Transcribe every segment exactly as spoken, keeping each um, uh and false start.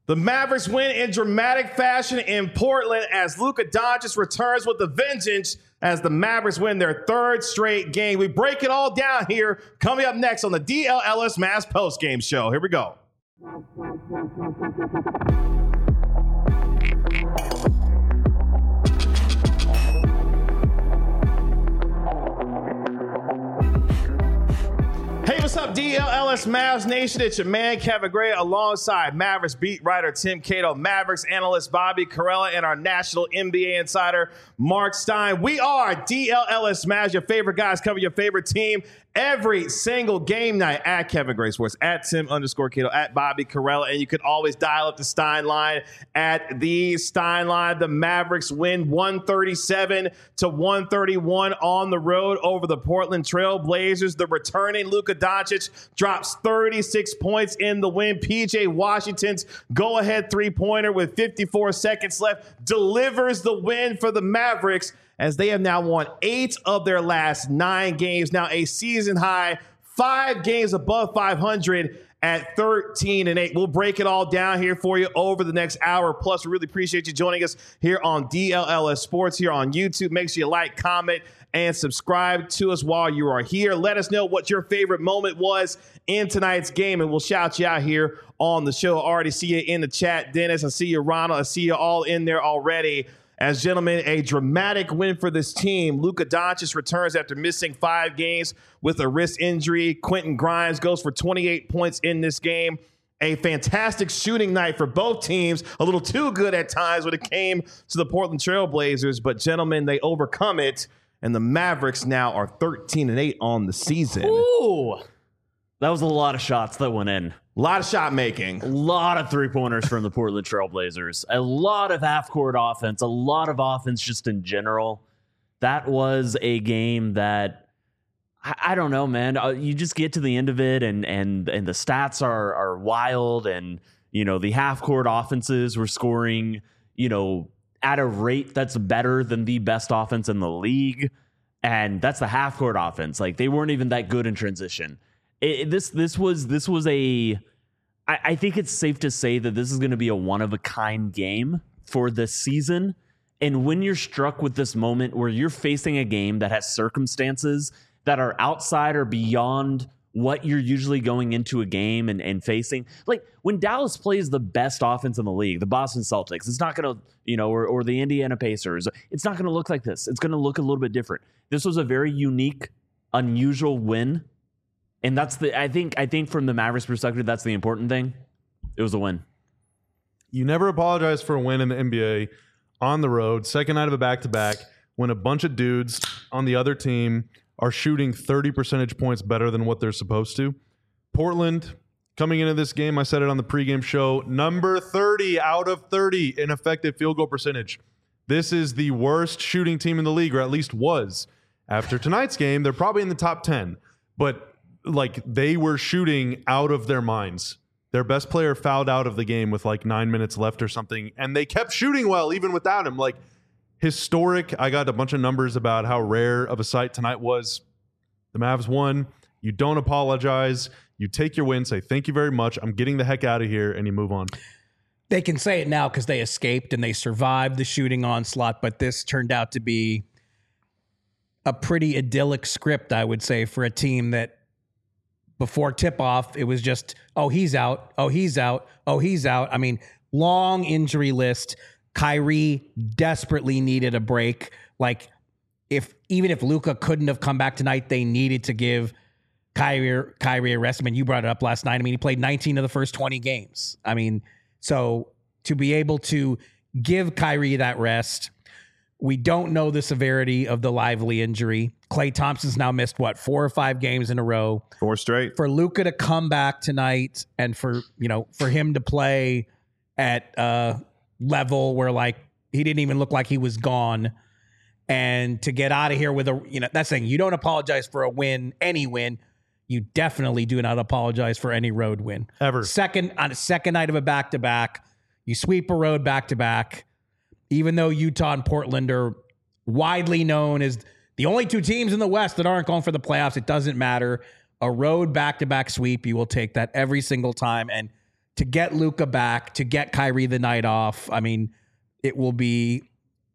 The Mavericks win in dramatic fashion in Portland as Luka Doncic returns with a vengeance as the Mavericks win their third straight game. We break it all down here. Coming up next on the D L Ellis Mavs postgame show. Here we go. Hey, what's up, D L L S Mavs Nation? It's your man, Kevin Gray, alongside Mavericks beat writer Tim Cato, Mavericks analyst Bobby Carella, and our national N B A insider, Mark Stein. We are D L L S Mavs, your favorite guys covering your favorite team every single game night at Kevin Gray Sports, at Tim underscore Cato, at Bobby Carella. And you can always dial up the Stein line at the Stein line. The Mavericks win one thirty-seven to one thirty-one on the road over the Portland Trail Blazers. The returning Luka Doncic drops thirty-six points in the win. P J Washington's go-ahead three-pointer with fifty-four seconds left delivers the win for the Mavericks, as they have now won eight of their last nine games. Now a season high, five games above five hundred at thirteen and eight. We'll break it all down here for you over the next hour. Plus, we really appreciate you joining us here on D L L S Sports here on YouTube. Make sure you like, comment, and subscribe to us while you are here. Let us know what your favorite moment was in tonight's game, and we'll shout you out here on the show. I already see you in the chat, Dennis. I see you, Ronald. I see you all in there already. As gentlemen, a dramatic win for this team. Luka Doncic returns after missing five games with a wrist injury. Quentin Grimes goes for twenty-eight points in this game. A fantastic shooting night for both teams. A little too good at times when it came to the Portland Trail Blazers. But gentlemen, they overcome it. And the Mavericks now are thirteen and eight on the season. Ooh, that was a lot of shots that went in. A lot of shot making. A lot of three-pointers from the Portland Trail Blazers. A lot of half-court offense. A lot of offense just in general. That was a game that, I, I don't know, man. Uh, you just get to the end of it, and and and the stats are are wild. And, you know, the half-court offenses were scoring, you know, at a rate that's better than the best offense in the league. And that's the half-court offense. Like, they weren't even that good in transition. It, this this was this was a I, I think it's safe to say that this is going to be a one of a kind game for this season. And when you're struck with this moment where you're facing a game that has circumstances that are outside or beyond what you're usually going into a game and, and facing, like when Dallas plays the best offense in the league, the Boston Celtics, it's not going to, you know, or, or the Indiana Pacers, it's not going to look like this. It's going to look a little bit different. This was a very unique, unusual win. And that's the, I think, I think from the Mavericks perspective, that's the important thing. It was a win. You never apologize for a win in the N B A on the road, second night of a back-to-back, when a bunch of dudes on the other team are shooting thirty percentage points better than what they're supposed to. Portland, coming into this game, I said it on the pregame show, number thirty out of thirty in effective field goal percentage. This is the worst shooting team in the league, or at least was. After tonight's game, they're probably in the top ten. But like they were shooting out of their minds. Their best player fouled out of the game with like nine minutes left or something, and they kept shooting well even without him. Like historic. I got a bunch of numbers about how rare of a sight tonight was. The Mavs won. You don't apologize. You take your win, say thank you very much. I'm getting the heck out of here, and you move on. They can say it now because they escaped and they survived the shooting onslaught, but this turned out to be a pretty idyllic script, I would say, for a team that before tip-off, it was just, oh, he's out, oh, he's out, oh, he's out. I mean, long injury list. Kyrie desperately needed a break. Like, if even if Luka couldn't have come back tonight, they needed to give Kyrie, Kyrie a rest. I mean, you brought it up last night. I mean, he played nineteen of the first twenty games. I mean, so to be able to give Kyrie that rest, we don't know the severity of the Lively injury. Klay Thompson's now missed, what, four or five games in a row. Four straight. For Luka to come back tonight and for, you know, for him to play at a level where, like, he didn't even look like he was gone, and to get out of here with a, you know, that's saying you don't apologize for a win, any win. You definitely do not apologize for any road win. Ever. Second, on a second night of a back-to-back, you sweep a road back-to-back. Even though Utah and Portland are widely known as the only two teams in the West that aren't going for the playoffs, it doesn't matter. A road back-to-back sweep, you will take that every single time. And to get Luka back, to get Kyrie the night off. I mean, it will be.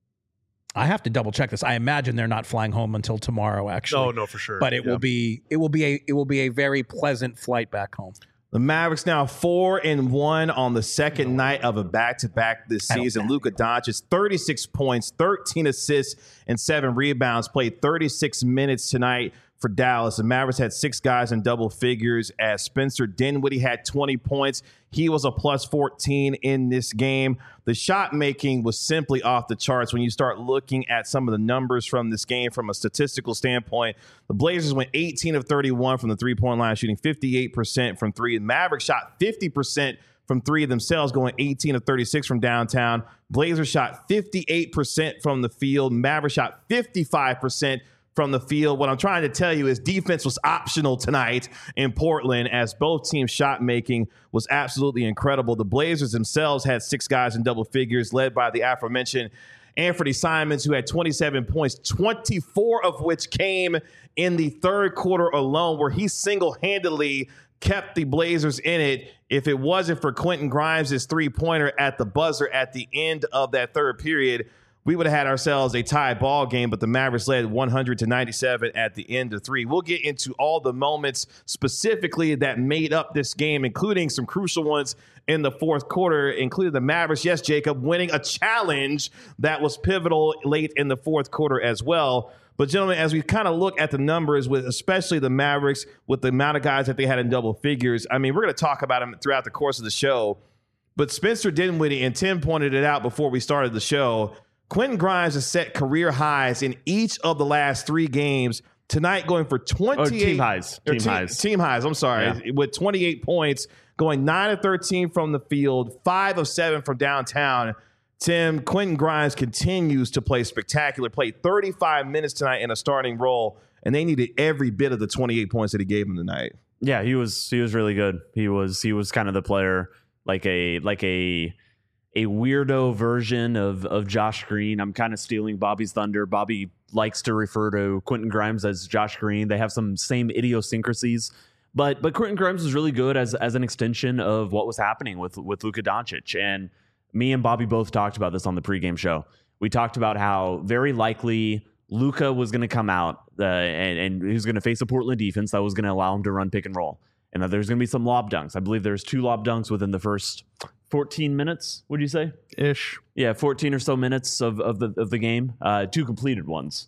I have to double check this. I imagine they're not flying home until tomorrow, actually. No, no, for sure. But it Yeah. will be. It will be a. It will be a very pleasant flight back home. The Mavericks now four and one on the second night of a back-to-back this season. Luka Doncic, thirty-six points, thirteen assists, and seven rebounds. Played thirty-six minutes tonight for Dallas. The Mavericks had six guys in double figures as Spencer Dinwiddie had twenty points. He was a plus fourteen in this game. The shot making was simply off the charts when you start looking at some of the numbers from this game from a statistical standpoint. The Blazers went eighteen of thirty-one from the three-point line, shooting fifty-eight percent from three. The Mavericks shot fifty percent from three themselves, going eighteen of thirty-six from downtown. Blazers shot fifty-eight percent from the field. Mavericks shot fifty-five percent from the field. What I'm trying to tell you is defense was optional tonight in Portland as both teams' shot making was absolutely incredible. The Blazers themselves had six guys in double figures, led by the aforementioned Anthony Simons, who had twenty-seven points, twenty-four of which came in the third quarter alone, where he single-handedly kept the Blazers in it. If it wasn't for Quentin Grimes' three-pointer at the buzzer at the end of that third period, we would have had ourselves a tie ball game, but the Mavericks led one hundred to ninety-seven at the end of three. We'll get into all the moments specifically that made up this game, including some crucial ones in the fourth quarter, including the Mavericks, yes, Jacob, winning a challenge that was pivotal late in the fourth quarter as well. But, gentlemen, as we kind of look at the numbers, with especially the Mavericks, with the amount of guys that they had in double figures, I mean, we're going to talk about them throughout the course of the show. But Spencer Dinwiddie, and Tim pointed it out before we started the show, Quentin Grimes has set career highs in each of the last three games. Tonight going for twenty-eight. Oh, team highs. Team team, highs. Team highs, I'm sorry. Yeah. With twenty-eight points, going nine of thirteen from the field, five of seven from downtown. Tim, Quentin Grimes continues to play spectacular. Played thirty-five minutes tonight in a starting role, and they needed every bit of the twenty-eight points that he gave them tonight. Yeah, he was he was really good. He was he was kind of the player like a like a a weirdo version of of Josh Green. I'm kind of stealing Bobby's thunder. Bobby likes to refer to Quentin Grimes as Josh Green. They have some same idiosyncrasies, but but Quentin Grimes was really good as as an extension of what was happening with with Luka Doncic. And me and Bobby both talked about this on the pregame show. We talked about how very likely Luka was going to come out uh, and, and he was going to face a Portland defense that was going to allow him to run pick and roll, and that there's going to be some lob dunks. I believe there's two lob dunks within the first fourteen minutes. Would you say? Ish. Yeah, fourteen or so minutes of of the of the game. Uh, two completed ones,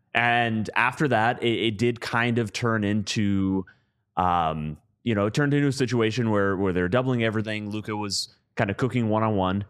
and after that, it, it did kind of turn into, um, you know, it turned into a situation where where they're doubling everything. Luka was kind of cooking one on one,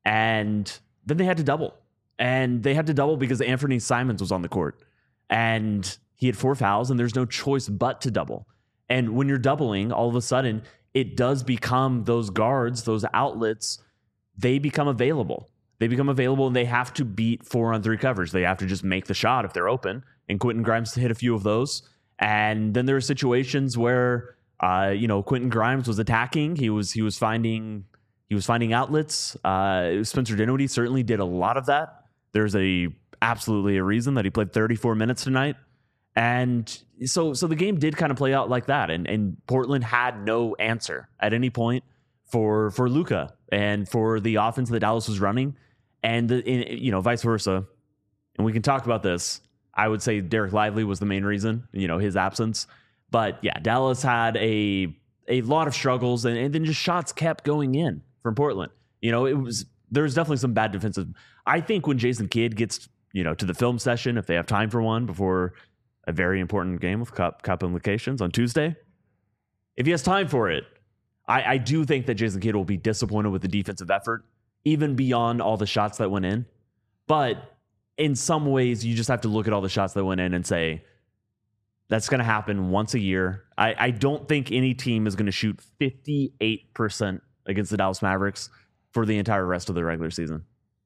and then they had to double. And they had to double because Anthony Simons was on the court and he had four fouls and there's no choice but to double. And when you're doubling, all of a sudden it does become those guards, those outlets, they become available. They become available and they have to beat four on three coverage. They have to just make the shot if they're open. And Quentin Grimes hit a few of those. And then there are situations where, uh, you know, Quentin Grimes was attacking. He was, he was finding, he was finding outlets. Uh, Spencer Dinwiddie certainly did a lot of that. There's a absolutely a reason that he played thirty-four minutes tonight. And so so the game did kind of play out like that. And and Portland had no answer at any point for for Luka and for the offense that Dallas was running. And, the, in, you know, vice versa. And we can talk about this. I would say Derek Lively was the main reason, you know, his absence. But yeah, Dallas had a a lot of struggles and, and then just shots kept going in from Portland. You know, it was there's definitely some bad defensive. I think when Jason Kidd gets, you know, to the film session, if they have time for one before a very important game with cup cup implications on Tuesday, if he has time for it, I, I do think that Jason Kidd will be disappointed with the defensive effort, even beyond all the shots that went in. But in some ways, you just have to look at all the shots that went in and say, that's going to happen once a year. I, I don't think any team is going to shoot fifty-eight percent against the Dallas Mavericks for the entire rest of the regular season.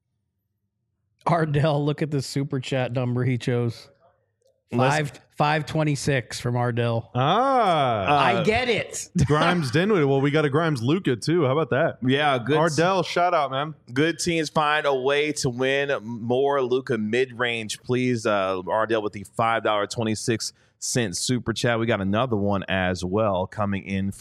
Ardell, look at the super chat number he chose. Five five twenty six from Ardell. Ah, Uh, I get it. Grimes Dinwiddie. Well, we got a Grimes Luka too. How about that? Yeah, good. Ardell, shout out, man. Good teams find a way to win more Luka mid-range. Please, uh, Ardell with the five dollars and twenty-six cents super chat. We got another one as well coming in from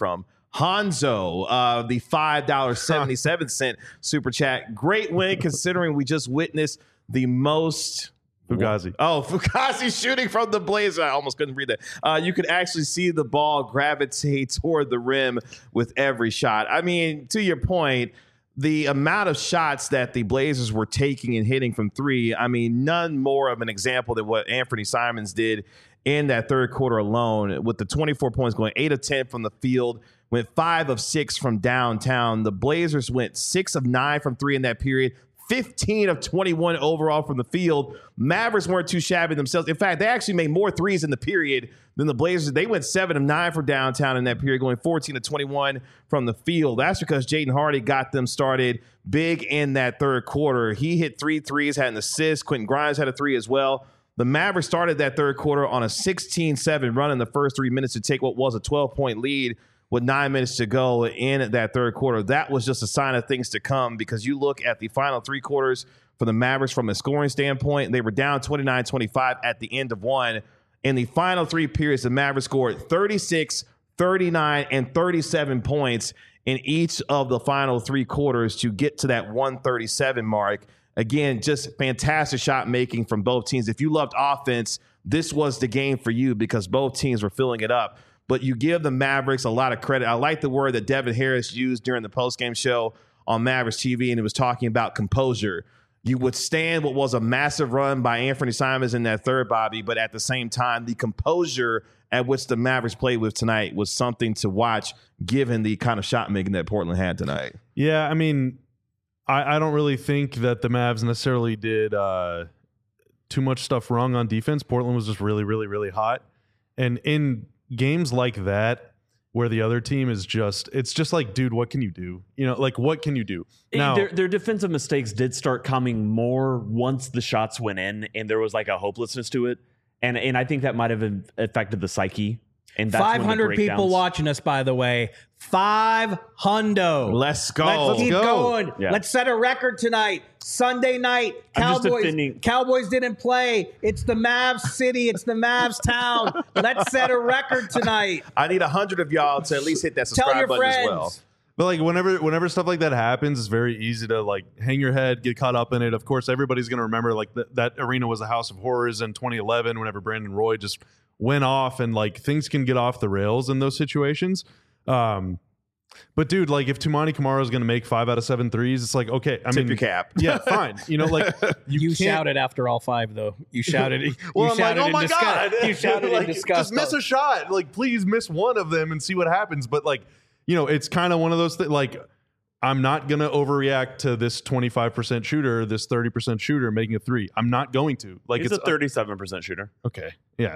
Hanzo, uh, the five dollars and seventy-seven cents super chat. Great win considering we just witnessed the most Fugazi. Oh, Fugazi shooting from the Blazer. I almost couldn't read that. Uh, you could actually see the ball gravitate toward the rim with every shot. I mean, to your point, the amount of shots that the Blazers were taking and hitting from three, I mean, none more of an example than what Anthony Simons did in that third quarter alone, with the twenty-four points, going eight of ten from the field, went five of six from downtown. The Blazers went six of nine from three in that period, fifteen of twenty-one overall from the field. Mavericks weren't too shabby themselves. In fact, they actually made more threes in the period than the Blazers. They went seven of nine from downtown in that period, going fourteen of twenty-one from the field. That's because Jaden Hardy got them started big in that third quarter. He hit three threes, had an assist. Quentin Grimes had a three as well. The Mavericks started that third quarter on a sixteen seven run in the first three minutes to take what was a twelve-point lead with nine minutes to go in that third quarter. That was just a sign of things to come, because you look at the final three quarters for the Mavericks from a scoring standpoint, they were down twenty-nine twenty-five at the end of one. In the final three periods, the Mavericks scored thirty-six, thirty-nine, and thirty-seven points in each of the final three quarters to get to that one thirty-seven mark. Again, just fantastic shot making from both teams. If you loved offense, this was the game for you, because both teams were filling it up. But you give the Mavericks a lot of credit. I like the word that Devin Harris used during the postgame show on Mavericks T V, and it was talking about composure. You withstand what was a massive run by Anthony Simons in that third, Bobby, but at the same time, the composure at which the Mavericks played with tonight was something to watch, given the kind of shot making that Portland had tonight. Yeah, I mean, I, I don't really think that the Mavs necessarily did uh, too much stuff wrong on defense. Portland was just really, really, really hot. And in games like that, where the other team is just, it's just like, dude, what can you do? You know, like, what can you do? Now, their, their defensive mistakes did start coming more once the shots went in, and there was like a hopelessness to it. And and I think that might have affected the psyche. And that's five hundred people watching us, by the way. Five hundo. Let's go. Let's keep Let's go. going. Yeah. Let's set a record tonight. Sunday night. I'm just Cowboys. defending- Cowboys didn't play. It's the Mavs city. It's the Mavs town. Let's set a record tonight. I need a hundred of y'all to at least hit that Tell subscribe your button friends. as well. but like whenever whenever stuff like that happens, it's very easy to like hang your head, get caught up in it. Of course, everybody's going to remember like th- that arena was a house of horrors in twenty eleven whenever Brandon Roy just went off, and like things can get off the rails in those situations. Um, but dude, like if Tumani Kamara is going to make five out of seven threes, it's like, okay, I Tip mean, your cap. yeah, fine. You know, like you, You, can't- shouted after all five, though. You shouted. You Well, I'm like, shouted oh in my disgust. god, You shouted like, in disgust. just miss a shot. Like, please miss one of them and see what happens. But like, you know, it's kind of one of those things. Like, I'm not gonna overreact to this twenty-five percent shooter, this thirty percent shooter making a three. I'm not going to. Like, He's it's a thirty-seven percent shooter. okay. Yeah.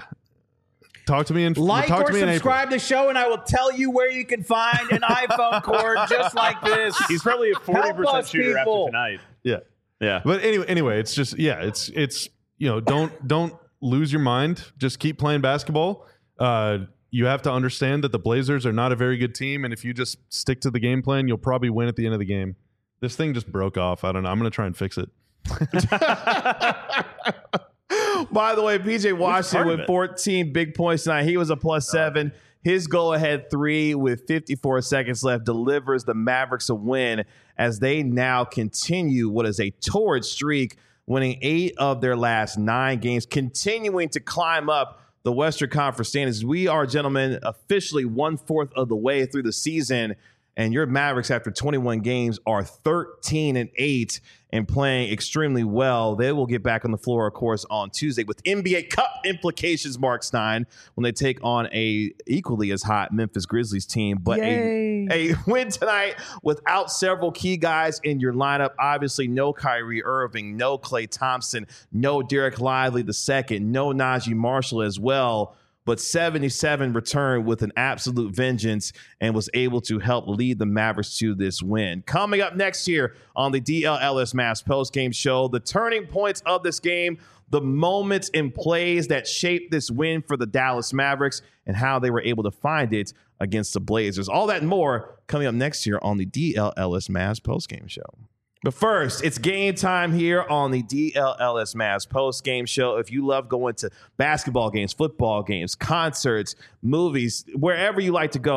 Talk to me in Like talk or to me in April. subscribe to the show, and I will tell you where you can find an iPhone cord just like this. He's probably a forty Help percent us, shooter people. after tonight. Yeah. Yeah. But anyway, anyway, it's just yeah, it's it's you know, don't don't lose your mind. Just keep playing basketball. Uh, you have to understand that the Blazers are not a very good team, and if you just stick to the game plan, you'll probably win at the end of the game. This thing just broke off. I don't know. I'm gonna try and fix it. By the way, P J Washington part of with it. fourteen big points tonight. He was a plus seven. His go-ahead three with fifty-four seconds left delivers the Mavericks a win as they now continue what is a torrid streak, winning eight of their last nine games, continuing to climb up the Western Conference standings. We are, gentlemen, officially one-fourth of the way through the season, and your Mavericks, after twenty-one games, are thirteen and eight and playing extremely well. They will get back on the floor, of course, on Tuesday with N B A Cup implications, Mark Stein, when they take on a equally as hot Memphis Grizzlies team. But a, a win tonight without several key guys in your lineup. Obviously, no Kyrie Irving, no Klay Thompson, no Derek Lively the second, no Najee Marshall as well. But seventy-seven returned with an absolute vengeance and was able to help lead the Mavericks to this win. Coming up next year on the D L L S Mavs postgame show, the turning points of this game, the moments and plays that shaped this win for the Dallas Mavericks, and how they were able to find it against the Blazers. All that and more coming up next year on the D L L S Mavs postgame show. But first, it's game time here on the D L L S Mavs post-game show. If you love going to basketball games, football games, concerts, movies, wherever you like to go,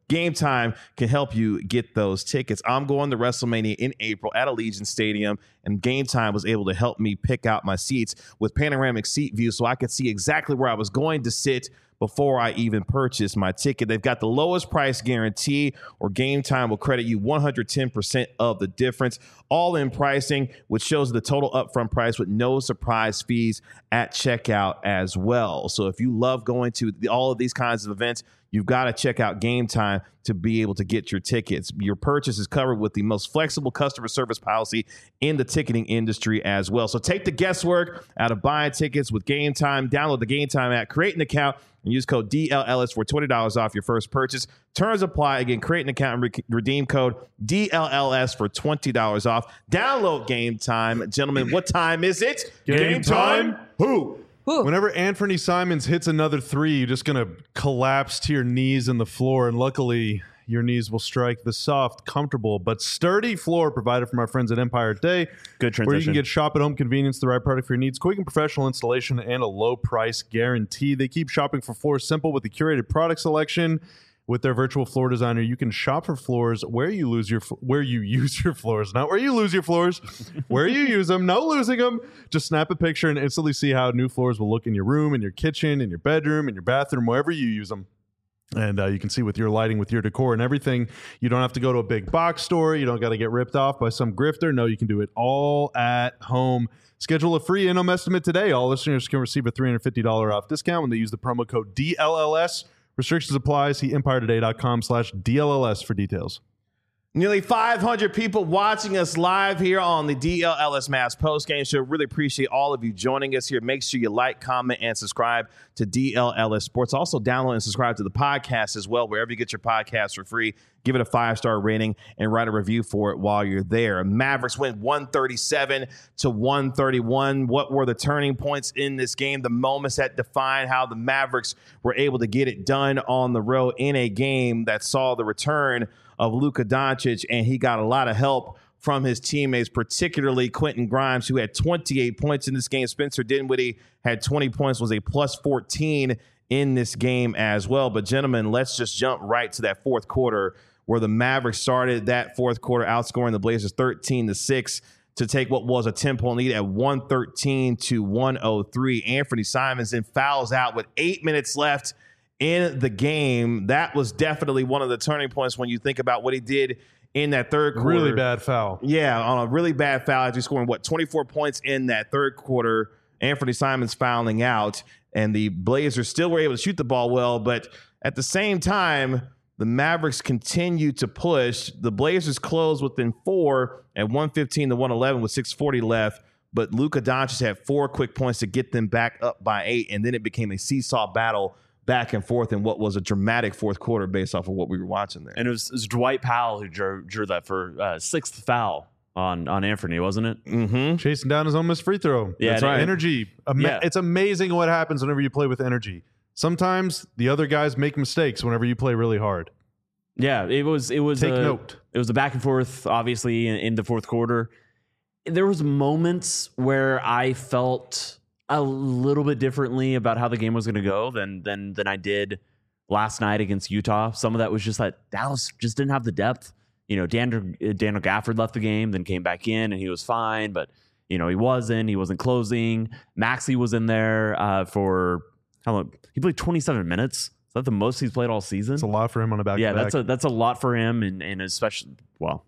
Game Time can help you get those tickets. I'm going to WrestleMania in April at Allegiant Stadium, and Game Time was able to help me pick out my seats with panoramic seat view so I could see exactly where I was going to sit before I even purchased my ticket. They've got the lowest price guarantee, or Game Time will credit you one hundred ten percent of the difference. All-in pricing, which shows the total upfront price with no surprise fees at checkout as well. So if you love going to the, all of these kinds of events, you've got to check out Game Time to be able to get your tickets. Your purchase is covered with the most flexible customer service policy in the ticketing industry as well. So take the guesswork out of buying tickets with Game Time. Download the Game Time app, create an account, and use code D L L S for twenty dollars off your first purchase. Terms apply. Again, create an account and re- redeem code D L L S for twenty dollars off. Download Game Time. Gentlemen, what time is it? Game Game time? time? Who? Whenever Anthony Simons hits another three, you're just going to collapse to your knees in the floor. And luckily, your knees will strike the soft, comfortable, but sturdy floor provided from our friends at Empire Day. Good transition. Where you can get shop at home convenience, the right product for your needs, quick and professional installation, and a low price guarantee. They keep shopping for floors simple with the curated product selection. With their virtual floor designer, you can shop for floors where you lose your where you use your floors, not where you lose your floors, where you use them. No losing them. Just snap a picture and instantly see how new floors will look in your room, in your kitchen, in your bedroom, in your bathroom, wherever you use them. And uh, you can see with your lighting, with your decor and everything, you don't have to go to a big box store. You don't got to get ripped off by some grifter. No, you can do it all at home. Schedule a free in-home estimate today. All listeners can receive a three hundred fifty dollars off discount when they use the promo code D L L S. Restrictions apply. See empire today dot com slash D L L S for details. Nearly five hundred people watching us live here on the D L L S Mavs postgame show. Really appreciate all of you joining us here. Make sure you like, comment, and subscribe to D L L S Sports. Also, download and subscribe to the podcast as well, wherever you get your podcasts for free. Give it a five-star rating and write a review for it while you're there. Mavericks win one thirty-seven to one thirty-one. What were the turning points in this game? The moments that define how the Mavericks were able to get it done on the road in a game that saw the return of Luka Doncic, and he got a lot of help from his teammates, particularly Quentin Grimes, who had twenty-eight points in this game. Spencer Dinwiddie had twenty points, was a plus fourteen in this game as well. But, gentlemen, let's just jump right to that fourth quarter, where the Mavericks started that fourth quarter outscoring the Blazers thirteen to six to take what was a ten-point lead at one thirteen to one oh three. Anthony Simons then fouls out with eight minutes left in the game. That was definitely one of the turning points when you think about what he did in that third quarter. Really bad foul. Yeah, on a really bad foul after scoring, what, twenty-four points in that third quarter. Anthony Simons fouling out, and the Blazers still were able to shoot the ball well, but at the same time, the Mavericks continue to push. The Blazers closed within four at one fifteen to one eleven with six forty left, but Luka Doncic had four quick points to get them back up by eight, and then it became a seesaw battle back and forth in what was a dramatic fourth quarter based off of what we were watching there. And it was, it was Dwight Powell who drew, drew that for uh, sixth foul on, on Anthony, wasn't it? Mm-hmm. Chasing down his own missed free throw. Yeah, That's right. Energy. Ama- yeah. It's amazing what happens whenever you play with energy. Sometimes the other guys make mistakes whenever you play really hard. Yeah, it was it was Take a, note. It was a back and forth, obviously, in, in the fourth quarter. There was moments where I felt a little bit differently about how the game was going to go than than than I did last night against Utah. Some of that was just that Dallas just didn't have the depth. You know, Daniel, Daniel Gafford left the game, then came back in, and he was fine, but you know he wasn't. He wasn't closing. Maxey was in there uh, for how long? He played twenty-seven minutes. Is that the most he's played all season? It's a lot for him on a back. Yeah, that's a that's a lot for him, and and especially well,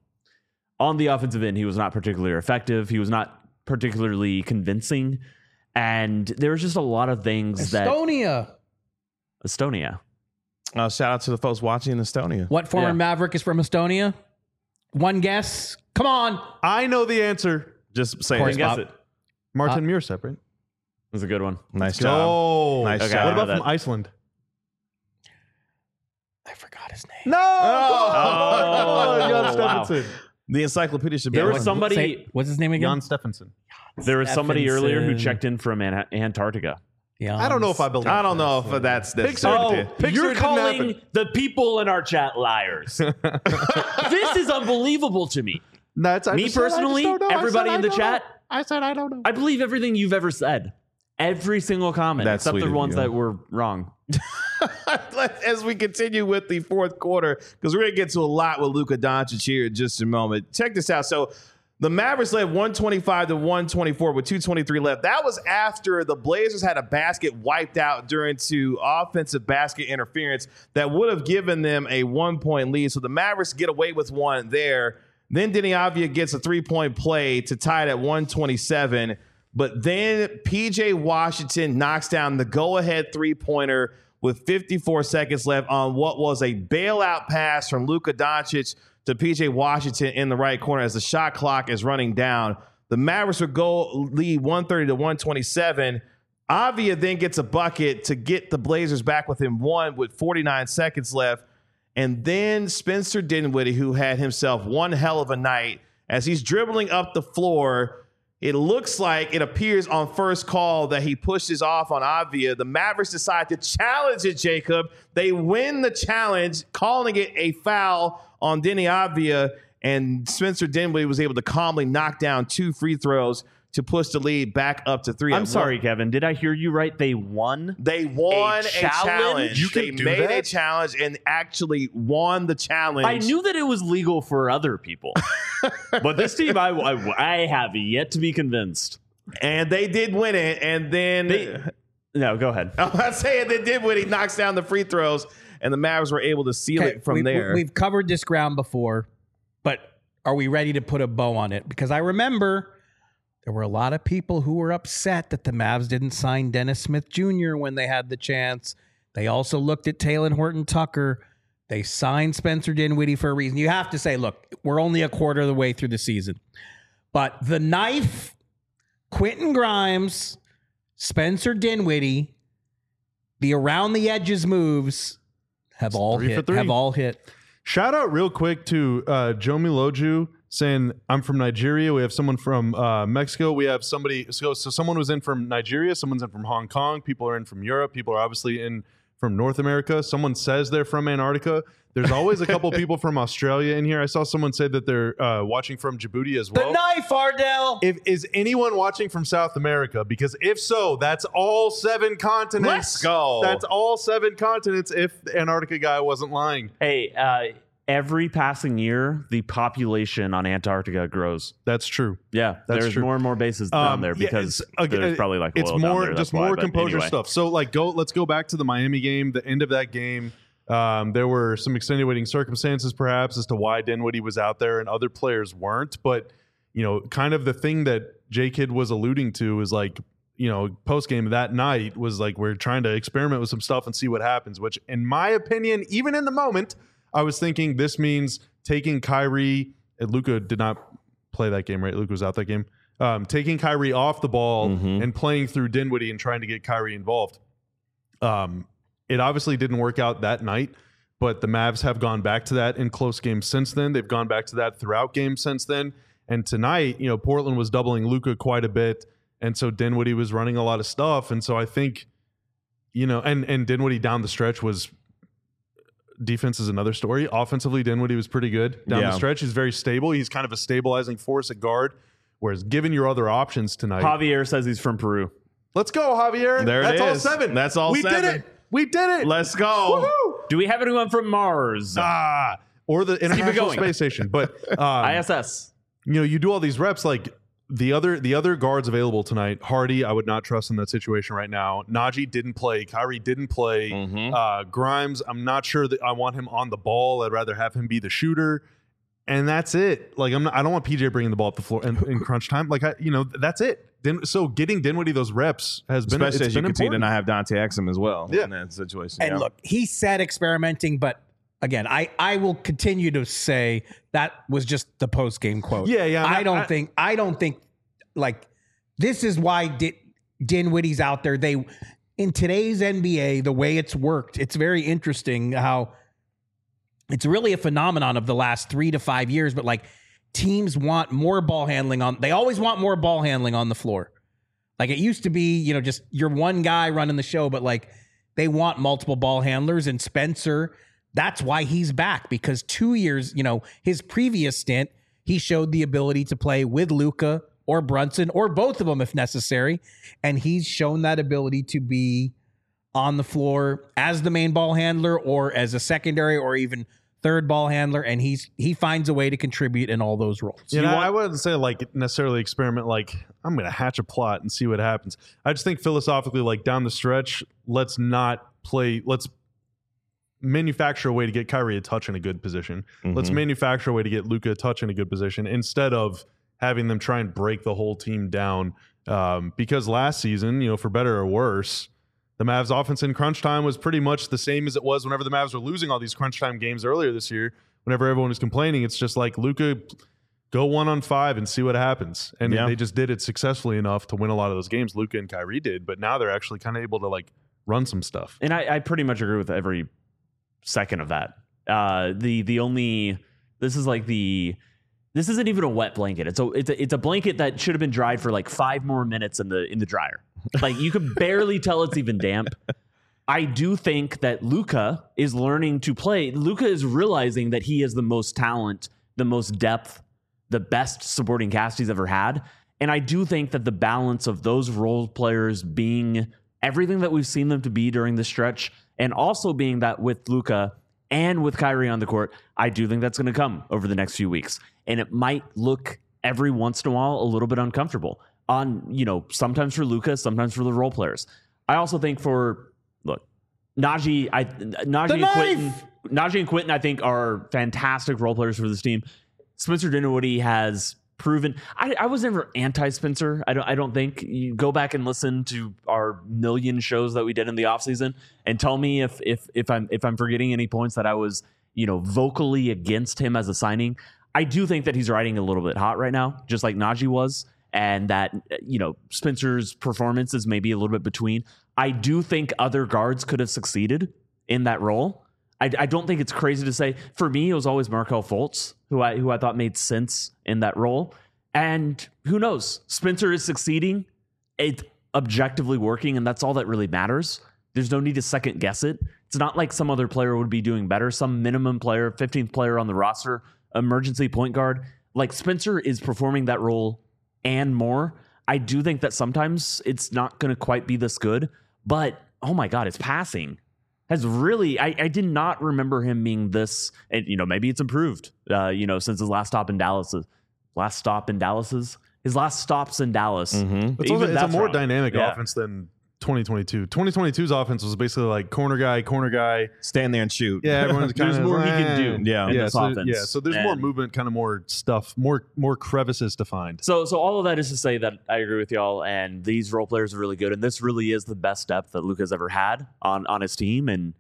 on the offensive end, he was not particularly effective. He was not particularly convincing, and there was just a lot of things that Estonia. Estonia. Uh, shout out to the folks watching in Estonia. What former Yeah. Maverick is from Estonia? One guess. Come on. I know the answer. Just say course, it. Guess Bob. it. Martin Muirsepp, right? It was a good one. Nice job. Oh, Nice Okay, job. What I know about from that. Iceland? I forgot his name. No. Oh, Jan wow. Stephenson. The encyclopedia should be There on. was somebody. Say, what's his name again? Jan Stephenson. There was somebody earlier who Stephenson. checked in from An- Antarctica. Yeah, I don't know if I believe. I don't know if that's that's Pixar. certainty. Pixar you're didn't calling happen. the people in our chat liars. This is unbelievable to me. That's I Me just said I just personally, don't know. I everybody said in I the don't chat, know. I said I don't know. I believe everything you've ever said. Every single comment, That's except sweet the of ones you. that were wrong. As we continue with the fourth quarter, because we're going to get to a lot with Luka Doncic here in just a moment. Check this out. So the Mavericks led one twenty-five to one twenty-four with two twenty-three left. That was after the Blazers had a basket wiped out during to offensive basket interference that would have given them a one-point lead. So the Mavericks get away with one there. Then Deni Avdija gets a three-point play to tie it at one twenty-seven. But then P J Washington knocks down the go-ahead three-pointer with fifty-four seconds left on what was a bailout pass from Luka Doncic to P J Washington in the right corner as the shot clock is running down. The Mavericks would go lead one thirty to one twenty-seven. Avdija then gets a bucket to get the Blazers back within one with forty-nine seconds left. And then Spencer Dinwiddie, who had himself one hell of a night, as he's dribbling up the floor, it looks like it appears on first call that he pushes off on Avdija. The Mavericks decide to challenge it, Jacob. They win the challenge, calling it a foul on Deni Avdija, and Spencer Dinwiddie was able to calmly knock down two free throws to push the lead back up to three. I'm sorry, Kevin. Did I hear you right? They won? They won a, a challenge. challenge? You they can do made that? a challenge and actually won the challenge. I knew that it was legal for other people. But this team, I, I, I have yet to be convinced. And they did win it. And then... They, no, go ahead. I'm not saying they did win. He knocks down the free throws, and the Mavs were able to seal Okay, it from we, there. We've covered this ground before, but are we ready to put a bow on it? Because I remember there were a lot of people who were upset that the Mavs didn't sign Dennis Smith Junior when they had the chance. They also looked at Talen Horton-Tucker. They signed Spencer Dinwiddie for a reason. You have to say, look, we're only a quarter of the way through the season. But the knife, Quentin Grimes, Spencer Dinwiddie, the around the edges moves have all three for hit. three. Have all hit. Shout out real quick to uh, Joe Miloju saying, I'm from Nigeria. We have someone from uh, Mexico. We have somebody. So, so someone was in from Nigeria. Someone's in from Hong Kong. People are in from Europe. People are obviously in from North America. Someone says they're from Antarctica. There's always a couple people from Australia in here. I saw someone say that they're uh, watching from Djibouti as well. The knife, Ardell. If is anyone watching from South America? Because if so, that's all seven continents. Let's go. That's all seven continents. If the Antarctica guy wasn't lying, Hey, uh, every passing year, the population on Antarctica grows. that's true. Yeah, That's there's true. more and more bases down Um, there yeah, because it's- again, there's probably like it's oil down more there, just that's why, more but composure anyway. stuff. So like go let's go back to the Miami game. The end of that game, um, there were some extenuating circumstances perhaps as to why Dinwiddie was out there and other players weren't. But you know, kind of the thing that J Kidd was alluding to is like, you know, post game that night was like we're trying to experiment with some stuff and see what happens. Which, in my opinion, even in the moment, I was thinking this means taking Kyrie. And Luka did not play that game, right? Luka was out that game. Um, taking Kyrie off the ball Mhm. and playing through Dinwiddie and trying to get Kyrie involved. Um, it obviously didn't work out that night, but the Mavs have gone back to that in close games since then. They've gone back to that throughout games since then. And tonight, you know, Portland was doubling Luka quite a bit, and so Dinwiddie was running a lot of stuff. And so I think, you know, and and Dinwiddie down the stretch was. Defense is another story. Offensively, Dinwiddie was pretty good down Yeah. the stretch. He's very stable. He's kind of a stabilizing force at guard. Whereas, given your other options tonight, Javier says he's from Peru. let's go, Javier. There it That's all is. seven. That's all we seven. did it. We did it. Let's go. Woohoo! Do we have anyone from Mars? Ah, or the International going. Space Station. But um, I S S. you know, you do all these reps like the other the other guards available tonight. Hardy, I would not trust in that situation right now. Najee didn't play. Kyrie didn't play. Mhm. Uh, Grimes, I'm not sure that I want him on the ball. I'd rather have him be the shooter. And that's it. Like I'm not, I don't want P J bringing the ball up the floor in, in crunch time. Like I, you know, that's it. Din, so getting Dinwiddie those reps has been Especially it's as you been continue to important. not have Dante Exum as well Yeah. in that situation. And yeah. look, he said experimenting, but again, I, I will continue to say that was just the post game quote. Yeah, yeah, I'm I not- don't I- think I don't think like this is why Din, Dinwiddie's out there. They in today's N B A, the way it's worked, it's very interesting how it's really a phenomenon of the last three to five years. But like teams want more ball handling on. They always want more ball handling on the floor. Like it used to be, you know, just you're one guy running the show, but like they want multiple ball handlers. And Spencer, that's why he's back, because two years, you know, his previous stint, he showed the ability to play with Luka or Brunson or both of them if necessary. And he's shown that ability to be on the floor as the main ball handler or as a secondary or even third ball handler, and he's he finds a way to contribute in all those roles. Yeah, want- I wouldn't say like necessarily experiment like I'm going to hatch a plot and see what happens. I just think philosophically, like down the stretch, let's not play. Let's manufacture a way to get Kyrie a touch in a good position. Mm-hmm. Let's manufacture a way to get Luka a touch in a good position instead of having them try and break the whole team down. Um, because last season, you know, for better or worse, the Mavs offense in crunch time was pretty much the same as it was whenever the Mavs were losing all these crunch time games earlier this year. Whenever everyone was complaining, it's just like, Luka, go one on five and see what happens. And yeah. they just did it successfully enough to win a lot of those games. Luka and Kyrie did, but now they're actually kind of able to like run some stuff. And I, I pretty much agree with every second of that. Uh, the the only this is like the this isn't even a wet blanket. It's a it's a it's a blanket that should have been dried for like five more minutes in the in the dryer. Like you could barely tell it's even damp. I do think that Luka is learning to play. Luka is realizing that he has the most talent, the most depth, the best supporting cast he's ever had. And I do think that the balance of those role players being everything that we've seen them to be during the stretch, and also being that with Luka and with Kyrie on the court, I do think that's going to come over the next few weeks. And it might look every once in a while a little bit uncomfortable on, you know, sometimes for Luka, sometimes for the role players. I also think for, look, Najee, I, Najee and Quentin, Najee and Quentin, I think are fantastic role players for this team. Spencer Dinwiddie has proven. I, I was never anti-Spencer. I don't. I don't think. You go back and listen to our million shows that we did in the offseason and tell me if if if I'm if I'm forgetting any points that I was, you know, vocally against him as a signing. I do think that he's riding a little bit hot right now, just like Najee was, and that, you know, Spencer's performance is maybe a little bit between. I do think other guards could have succeeded in that role. I, I don't think it's crazy to say. For me, it was always Markelle Fultz, who I who I thought made sense in that role. And who knows? Spencer is succeeding. It's objectively working, and that's all that really matters. There's no need to second guess it. It's not like some other player would be doing better. Some minimum player, fifteenth player on the roster, emergency point guard. Like Spencer is performing that role and more. I do think that sometimes it's not going to quite be this good, but oh my God, it's passing. Has really, I, I did not remember him being this, and you know, maybe it's improved, uh, you know, since his last stop in Dallas. Last stop in Dallas's? His last stops in Dallas. Mm-hmm. It's, also, it's a more wrong. dynamic yeah. offense than twenty twenty-two. twenty twenty-two's offense was basically like corner guy, corner guy. Stand there and shoot. Yeah, everyone's kind There's of more like, he can do yeah. in yeah, this so, offense. Yeah, so there's and more movement, kind of more stuff, more more crevices to find. So so all of that is to say that I agree with y'all, and these role players are really good, and this really is the best depth that Luka's ever had on, on his team, and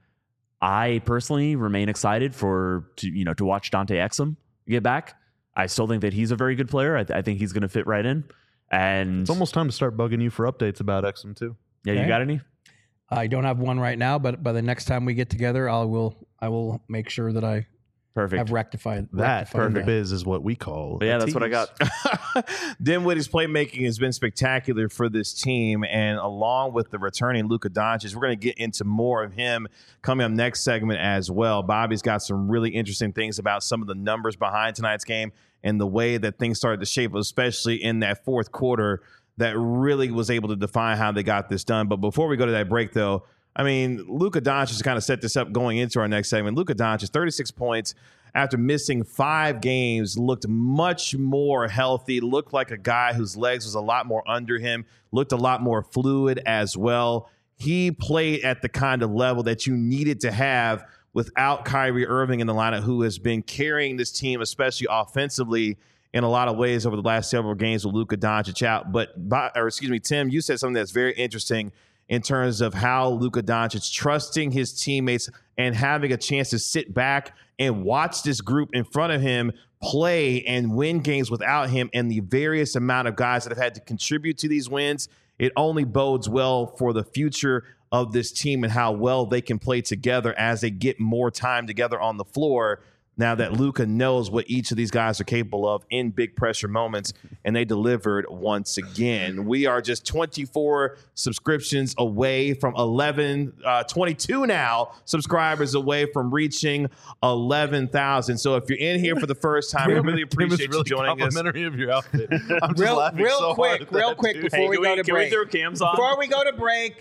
I personally remain excited for to you know to watch Dante Exum get back. I still think that he's a very good player. I, th- I think he's going to fit right in. And it's almost time to start bugging you for updates about Exum too. Yeah, okay. You got any? I don't have one right now, but by the next time we get together, I will I will make sure that I perfect have rectified that. Rectified Perfect that. Biz is what we call. But yeah, that's tease. what I got. Dinwiddie's playmaking has been spectacular for this team, and along with the returning Luka Doncic, we're going to get into more of him coming up next segment as well. Bobby's got some really interesting things about some of the numbers behind tonight's game and the way that things started to shape, especially in that fourth quarter, that really was able to define how they got this done. But before we go to that break, though, I mean, Luka Doncic has kind of set this up going into our next segment. Luka Doncic, thirty-six points after missing five games, looked much more healthy, looked like a guy whose legs was a lot more under him, looked a lot more fluid as well. He played at the kind of level that you needed to have without Kyrie Irving in the lineup, who has been carrying this team, especially offensively, in a lot of ways over the last several games with Luka Doncic out. But, or excuse me, Tim, you said something that's very interesting in terms of how Luka Doncic trusting his teammates and having a chance to sit back and watch this group in front of him play and win games without him, and the various amount of guys that have had to contribute to these wins. It only bodes well for the future of this team and how well they can play together as they get more time together on the floor. Now that Luka knows what each of these guys are capable of in big pressure moments, and they delivered once again. We are just twenty-four subscriptions away from eleven, uh, twenty-two now subscribers away from reaching eleven thousand. So if you're in here for the first time, we really appreciate really you joining us. Complimentary of your outfit. I'm just Real, laughing real so quick, hard at real that, quick dude. before Hey, we can go we, to can break. we throw cams on? Before we go to break,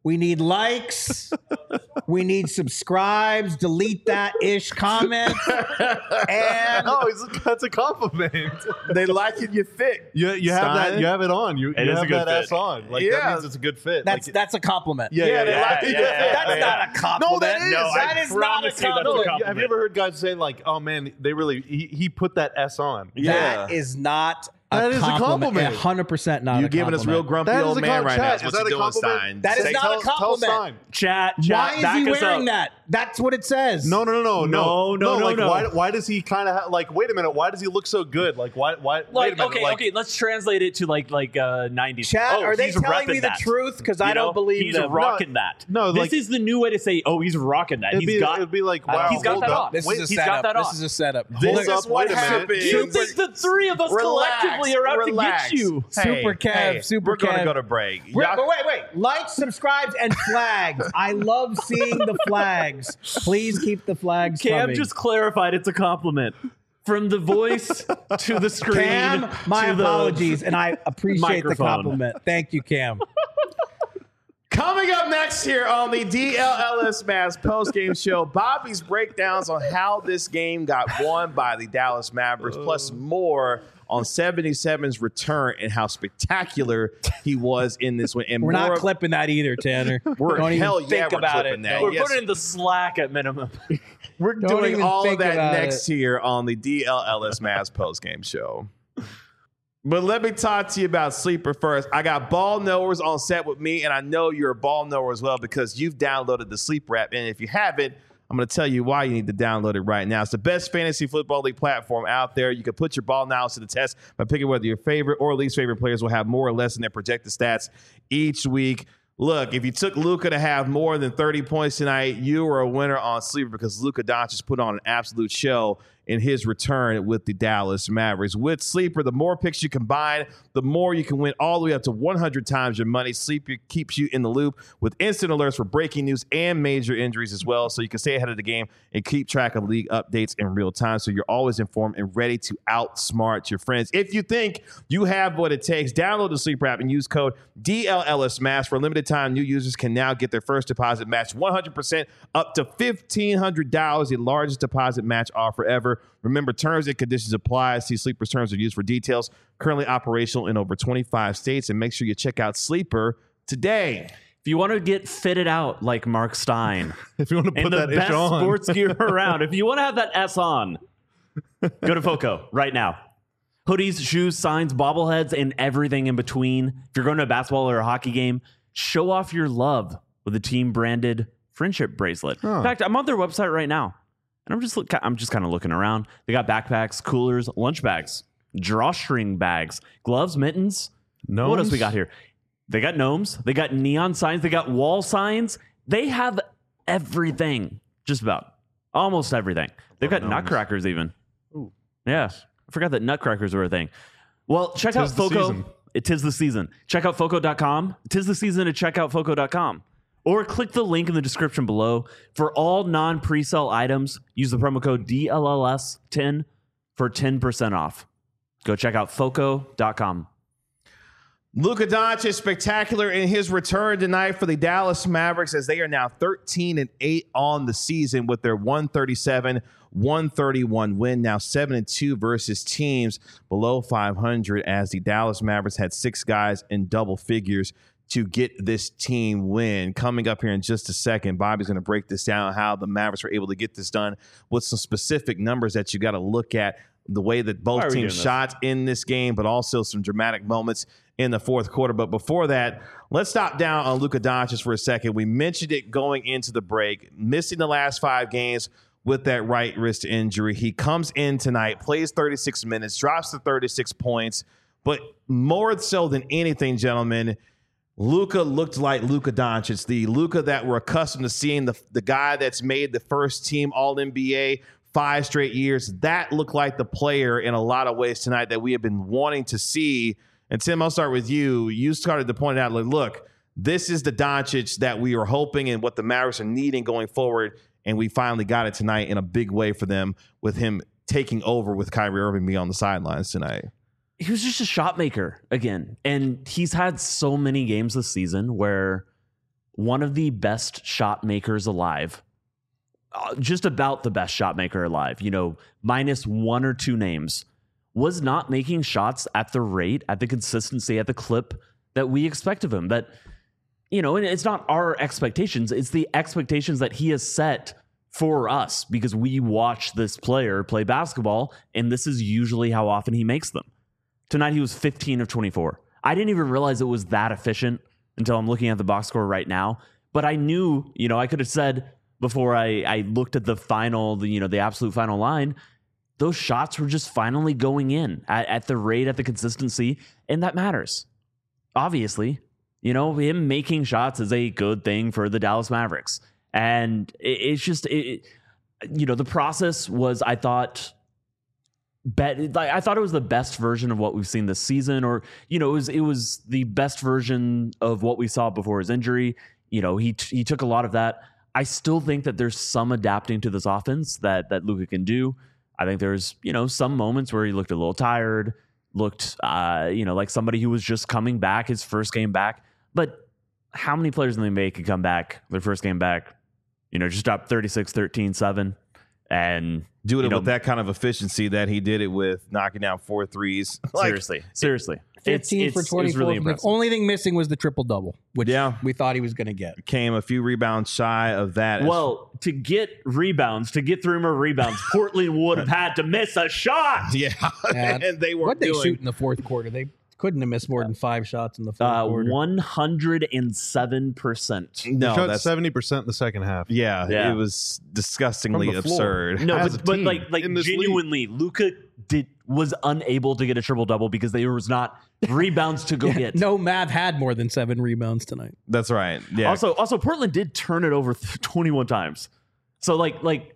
We need likes. We need subscribes. Delete that ish comment. And No, it's, that's a compliment. They like it. You fit. You you have that. Stein. You have it on. You, It you is a have good that fit. S on. Like Yeah. that means it's a good fit. that's like, that's a compliment. yeah, Yeah, yeah, they yeah. like yeah, it. yeah, Yeah, That's yeah. not a compliment. No, that is. No, I that is not a promise you that's a compliment. compliment. Have you ever heard guys say like, "Oh man, they really he, he put that S on"? Yeah. That is not a That is a compliment. compliment. one hundred percent not You a giving us real compliment. grumpy That is old a man com- right chat. now. Is That's that what a you're doing, compliment? Stein. That is Say- not tell, a compliment. Tell Stein. Chat, Why chat, is back he us wearing up. that? That's what it says. No, no, no, no, No, no, no, Like, no. why? Why does he kind of ha- like? Wait a minute. Why does he look so good? Like, why? Why? wait a Like, minute. okay, like, okay, let's translate it to like like uh, nineties. Chat, oh, are they he's telling repping me the that. truth? Because You I don't know? believe he's them. rocking that. no, this like- is the new way to say, oh, he's rocking that. It'd He's be, got. it'd be like, I wow, don't- He's got hold that up. on. This Wait, is a he's got setup. that This on. is a setup. Hold Hold This up, is what wait a minute. happens. Do you think the three of us Relax, collectively are out relax. to get you? Hey, Super Kev, hey, Super We're gonna Kev. go to break. Wait, Y'all- but wait, wait. Like, subscribes, and flags. I love seeing the flags. Please keep the flags Cam coming. just clarified it's a compliment. From the voice to the screen. Cam, my to the- apologies, and I appreciate the microphone. compliment. Thank you, Cam. Coming up next here on the D L L S Mavs post-game show, Bobby's breakdowns on how this game got won by the Dallas Mavericks, plus more on seventy-seven's return and how spectacular he was in this one. And We're more not of- clipping that either, Tanner. We're Don't even hell think yeah, we're about clipping it. that. We're Yes. putting it in the Slack at minimum. We're Don't doing even all of think that about next it. here on the D L L S Mavs post-game show. But let me talk to you about Sleeper first. I got ball knowers on set with me, and I know you're a ball knower as well because you've downloaded the Sleeper app. And if you haven't, I'm going to tell you why you need to download it right now. It's the best fantasy football league platform out there. You can put your ball analysis to the test by picking whether your favorite or least favorite players will have more or less in their projected stats each week. Look, if you took Luka to have more than thirty points tonight, you were a winner on Sleeper because Luka Doncic put on an absolute show in his return with the Dallas Mavericks. With Sleeper, the more picks you combine, the more you can win all the way up to one hundred times your money. Sleeper keeps you in the loop with instant alerts for breaking news and major injuries as well, so you can stay ahead of the game and keep track of league updates in real time so you're always informed and ready to outsmart your friends. If you think you have what it takes, download the Sleeper app and use code D L L S M A S. For a limited time, new users can now get their first deposit matched one hundred percent up to fifteen hundred dollars, the largest deposit match offer ever. Remember, terms and conditions apply. See Sleeper's terms are used for details. Currently operational in over twenty-five states. And make sure you check out Sleeper today. If you want to get fitted out like Mark Stein If you want to put and the that ish best on, sports gear around, if you want to have that S on, go to Foco right now. Hoodies, shoes, signs, bobbleheads, and everything in between. If you're going to a basketball or a hockey game, show off your love with a team branded friendship bracelet. Huh. In fact, I'm on their website right now, and I'm just look, I'm just kind of looking around. They got backpacks, coolers, lunch bags, drawstring bags, gloves, mittens. Gnomes? What else we got here? They got gnomes. They got neon signs. They got wall signs. They have everything, just about almost everything. They've got gnomes. nutcrackers even. Yeah, I forgot that nutcrackers were a thing. Well, check Tis out the Foco. season. It is the season. Check out Foco dot com. It is the season to check out Foco dot com. Or click the link in the description below. For all non-presale items, use the promo code D L L S ten for ten percent off. Go check out Foco dot com. Luka Doncic spectacular in his return tonight for the Dallas Mavericks as they are now thirteen and eight on the season with their one thirty-seven one thirty-one win, now seven and two versus teams below five hundred as the Dallas Mavericks had six guys in double figures to get this team win. Coming up here in just a second, Bobby's going to break this down, how the Mavericks were able to get this done with some specific numbers that you got to look at, the way that Why are both we teams doing this? shot in this game, but also some dramatic moments in the fourth quarter. But before that, let's stop down on Luka Doncic for a second. We mentioned it going into the break, missing the last five games with that right wrist injury. He comes in tonight, plays thirty-six minutes, drops to thirty-six points. But more so than anything, gentlemen, Luka looked like Luka Doncic, the Luka that we're accustomed to seeing, the, the guy that's made the first team All N B A five straight years. That looked like the player in a lot of ways tonight that we have been wanting to see. And Tim, I'll start with you. You started to point out, like, look, this is the Doncic that we were hoping and what the Mavericks are needing going forward. And we finally got it tonight in a big way for them with him taking over with Kyrie Irving being on the sidelines tonight. He was just a shot maker again. And he's had so many games this season where one of the best shot makers alive. Uh, just about the best shot maker alive, you know, minus one or two names, was not making shots at the rate, at the consistency, at the clip that we expect of him. That, you know, and it's not our expectations, it's the expectations that he has set for us because we watch this player play basketball, and this is usually how often he makes them. Tonight he was fifteen of twenty-four. I didn't even realize it was that efficient until I'm looking at the box score right now. But I knew, you know, I could have said before I, I looked at the final, the, you know, the absolute final line, those shots were just finally going in at, at the rate, at the consistency, and that matters. Obviously, you know, him making shots is a good thing for the Dallas Mavericks. And it, it's just, it, you know, the process was, I thought, bet, like, I thought it was the best version of what we've seen this season, or, you know, it was, it was the best version of what we saw before his injury. You know, he he took a lot of that. I still think that there's some adapting to this offense that that Luka can do. I think there's, you know, some moments where he looked a little tired, looked, uh, you know, like somebody who was just coming back, his first game back. But how many players in the N B A can come back their first game back, you know, just drop thirty-six, thirteen, seven and do it you know, with that kind of efficiency that he did it with, knocking down four threes. Like, seriously, seriously. fifteen it's, for it's, twenty-four. Really the only thing missing was the triple double, which yeah. we thought he was going to get. Came a few rebounds shy of that. Well, to get rebounds, to get three more rebounds, Portland would have had to miss a shot. Yeah, Yeah. and they were What they doing. shoot in the fourth quarter? They couldn't have missed more than five shots in the fourth Uh, quarter. one hundred seven percent. No, shot that's seventy percent in the second half. yeah, Yeah. It was disgustingly From the floor. absurd. No, As a but, but team like, like in this genuinely, Luka did was unable to get a triple double because there was not rebounds to go get. No Mav had more than seven rebounds tonight. That's right. Yeah. Also, also Portland did turn it over twenty-one times. So like, like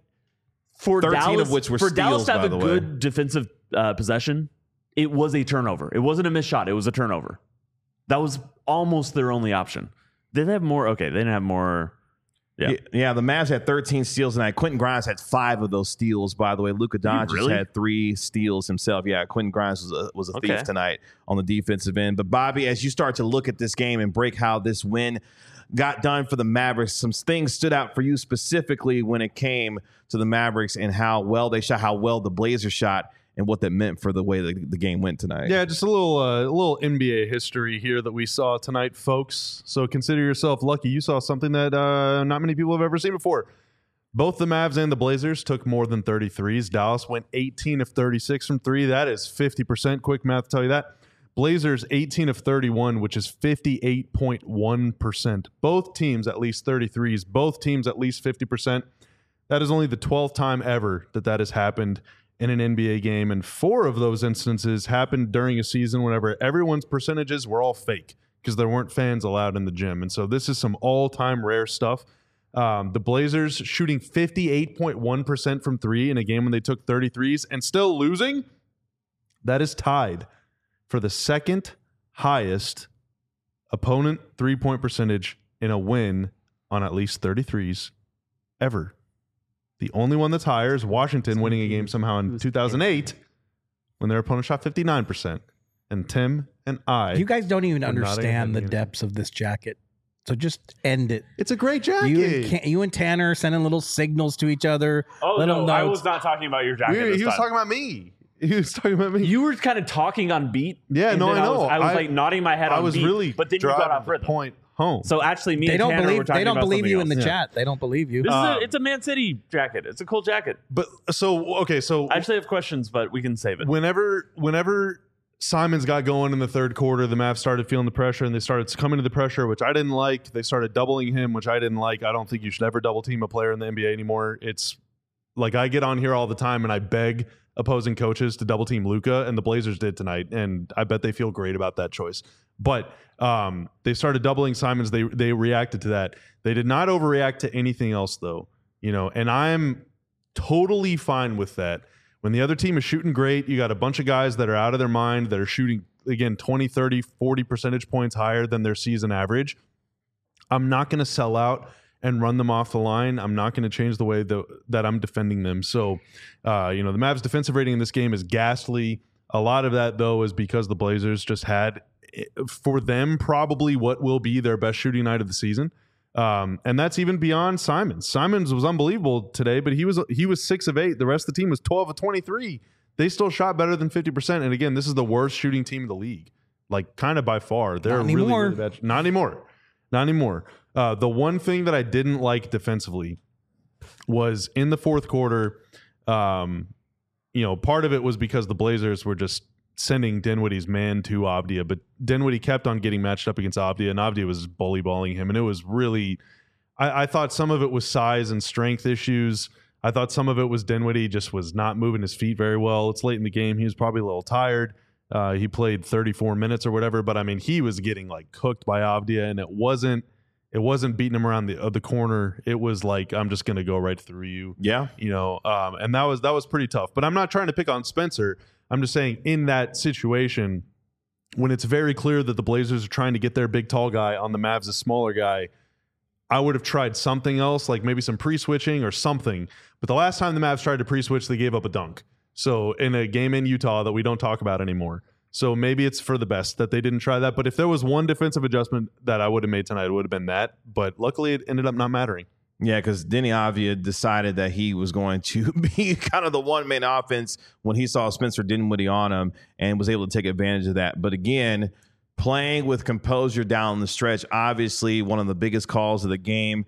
for thirteen Dallas, of which were for Dallas steals, to have by a the way. good defensive uh, possession, it was a turnover. It wasn't a missed shot. It was a turnover. That was almost their only option. Did they have more? Okay, they didn't have more. Yeah. Yeah, yeah, the Mavs had thirteen steals tonight. Quentin Grimes had five of those steals, by the way. Luka Doncic really? had three steals himself. Yeah, Quentin Grimes was a, was a Okay. thief tonight on the defensive end. But, Bobby, as you start to look at this game and break how this win got done for the Mavericks, some things stood out for you specifically when it came to the Mavericks and how well they shot, how well the Blazers shot, and what that meant for the way the, the game went tonight. Yeah, just a little uh, a little N B A history here that we saw tonight, folks. So consider yourself lucky. You saw something that uh, not many people have ever seen before. Both the Mavs and the Blazers took more than thirty threes. Dallas went eighteen of thirty-six from three. That is fifty percent. Quick math to tell you that. Blazers eighteen of thirty-one, which is fifty-eight point one percent. Both teams at least thirty-threes. Both teams at least fifty percent. That is only the twelfth time ever that that has happened in an N B A game, and four of those instances happened during a season whenever everyone's percentages were all fake because there weren't fans allowed in the gym. And so this is some all-time rare stuff. Um, the Blazers shooting fifty-eight point one percent from three in a game when they took thirty-threes and still losing. That is tied for the second highest opponent three-point percentage in a win on at least thirty-threes ever. The only one that's higher is Washington winning a game somehow in two thousand eight when their opponent shot fifty-nine percent. And Tim and I. You guys don't even We're nodding understand the head. depths of this jacket. So just end it. It's a great jacket. You and, Can- you and Tanner sending little signals to each other. Oh little no, I notes. was not talking about your jacket. We- this he was time. talking about me. He was talking about me. You were kind of talking on beat. Yeah, and no, then I know. was, I was I- like nodding my head I on was beat, really but then you got driving off the rhythm. point home. So actually, me They and don't Tanner were believe. talking They don't about believe something you else. in the Yeah. chat. They don't believe you. This Um, is a, it's a Man City jacket. It's a cool jacket. But so okay, so I actually have questions, but we can save it. whenever whenever Simons got going in the third quarter, the Mavs started feeling the pressure and they started coming to the pressure, which I didn't like. They started doubling him, which I didn't like. I don't think you should ever double team a player in the N B A anymore. It's like I get on here all the time and I beg opposing coaches to double team Luka, and the Blazers did tonight, and I bet they feel great about that choice. But um, they started doubling Simons. They they reacted to that. They did not overreact to anything else, though. You know, and I'm totally fine with that. When the other team is shooting great, you got a bunch of guys that are out of their mind that are shooting, again, twenty, thirty, forty percentage points higher than their season average. I'm not going to sell out and run them off the line. I'm not going to change the way the, that I'm defending them. So, uh, you know, the Mavs defensive rating in this game is ghastly. A lot of that, though, is because the Blazers just had, for them, probably what will be their best shooting night of the season. Um, and that's even beyond Simons. Simons was unbelievable today, but he was he was six of eight. The rest of the team was twelve of twenty-three. They still shot better than fifty percent. And again, this is the worst shooting team in the league, like kind of by far. They're Not really, anymore. really bad. Not anymore. Not anymore. Uh, the one thing that I didn't like defensively was in the fourth quarter. Um, you know, part of it was because the Blazers were just sending Dinwiddie's man to Avdija, but Dinwiddie kept on getting matched up against Avdija, and Avdija was bully balling him, and it was really. I, I thought some of it was size and strength issues. I thought some of it was Dinwiddie just was not moving his feet very well. It's late in the game; he was probably a little tired. Uh, he played thirty-four minutes or whatever, but I mean, he was getting like cooked by Avdija, and it wasn't. It wasn't beating him around the uh, the corner. It was like, I'm just going to go right through you. Yeah. You know, um, and that was that was pretty tough. But I'm not trying to pick on Spencer. I'm just saying in that situation, when it's very clear that the Blazers are trying to get their big tall guy on the Mavs, a smaller guy, I would have tried something else, like maybe some pre-switching or something. But the last time the Mavs tried to pre-switch, they gave up a dunk. So in a game in Utah that we don't talk about anymore. So maybe it's for the best that they didn't try that. But if there was one defensive adjustment that I would have made tonight, it would have been that. But luckily, it ended up not mattering. Yeah, because Denny Avdija decided that he was going to be kind of the one main offense when he saw Spencer Dinwiddie on him and was able to take advantage of that. But again, playing with composure down the stretch, obviously one of the biggest calls of the game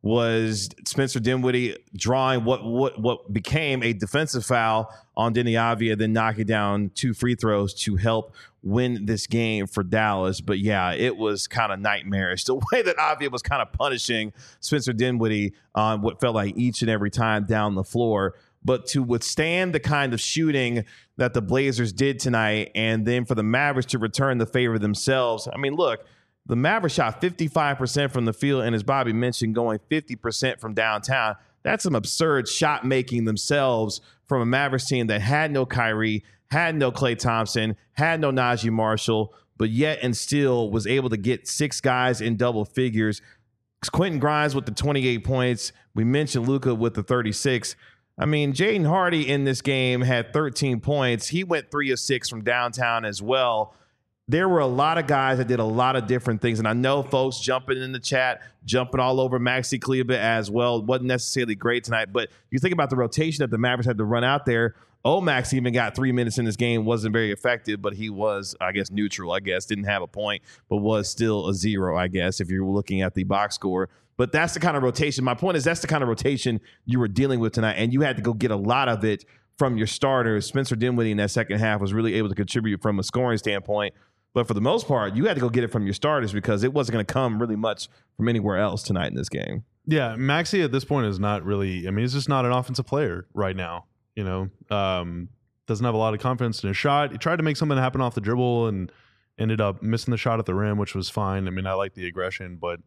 was Spencer Dinwiddie drawing what what what became a defensive foul on Denny Avdija, then knocking down two free throws to help win this game for Dallas. But yeah, it was kind of nightmarish the way that Avdija was kind of punishing Spencer Dinwiddie on what felt like each and every time down the floor. But to withstand the kind of shooting that the Blazers did tonight, and then for the Mavericks to return the favor themselves, I mean, look, the Mavericks shot fifty-five percent from the field, and as Bobby mentioned, going fifty percent from downtown. That's some absurd shot making themselves from a Mavericks team that had no Kyrie, had no Klay Thompson, had no Najee Marshall, but yet and still was able to get six guys in double figures. Quentin Grimes with the twenty-eight points. We mentioned Luka with the thirty-six. I mean, Jaden Hardy in this game had thirteen points. He went three of six from downtown as well. There were a lot of guys that did a lot of different things. And I know folks jumping in the chat, jumping all over Maxi Kleber as well. It wasn't necessarily great tonight. But you think about the rotation that the Mavericks had to run out there. Omax even got three minutes in this game. Wasn't very effective, but he was, I guess, neutral, I guess. Didn't have a point, but was still a zero, I guess, if you're looking at the box score. But that's the kind of rotation. My point is that's the kind of rotation you were dealing with tonight. And you had to go get a lot of it from your starters. Spencer Dinwiddie in that second half was really able to contribute from a scoring standpoint. But for the most part, you had to go get it from your starters because it wasn't going to come really much from anywhere else tonight in this game. Yeah, Maxey at this point is not really, I mean, he's just not an offensive player right now. You know, um, doesn't have a lot of confidence in his shot. He tried to make something happen off the dribble and ended up missing the shot at the rim, which was fine. I mean, I like the aggression, but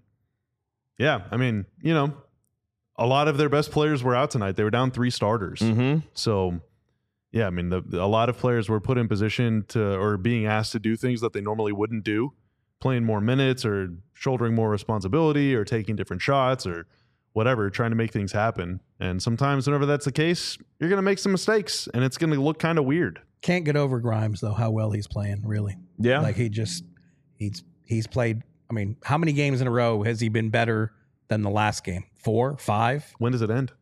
yeah, I mean, you know, a lot of their best players were out tonight. They were down three starters. Mm-hmm. So, yeah, I mean, the, a lot of players were put in position to or being asked to do things that they normally wouldn't do, playing more minutes or shouldering more responsibility or taking different shots or whatever, trying to make things happen. And sometimes whenever that's the case, you're going to make some mistakes and it's going to look kind of weird. Can't get over Grimes, though, how well he's playing, really. Yeah. Like he just, he's he's played, I mean, how many games in a row has he been better than the last game? Four, five? When does it end?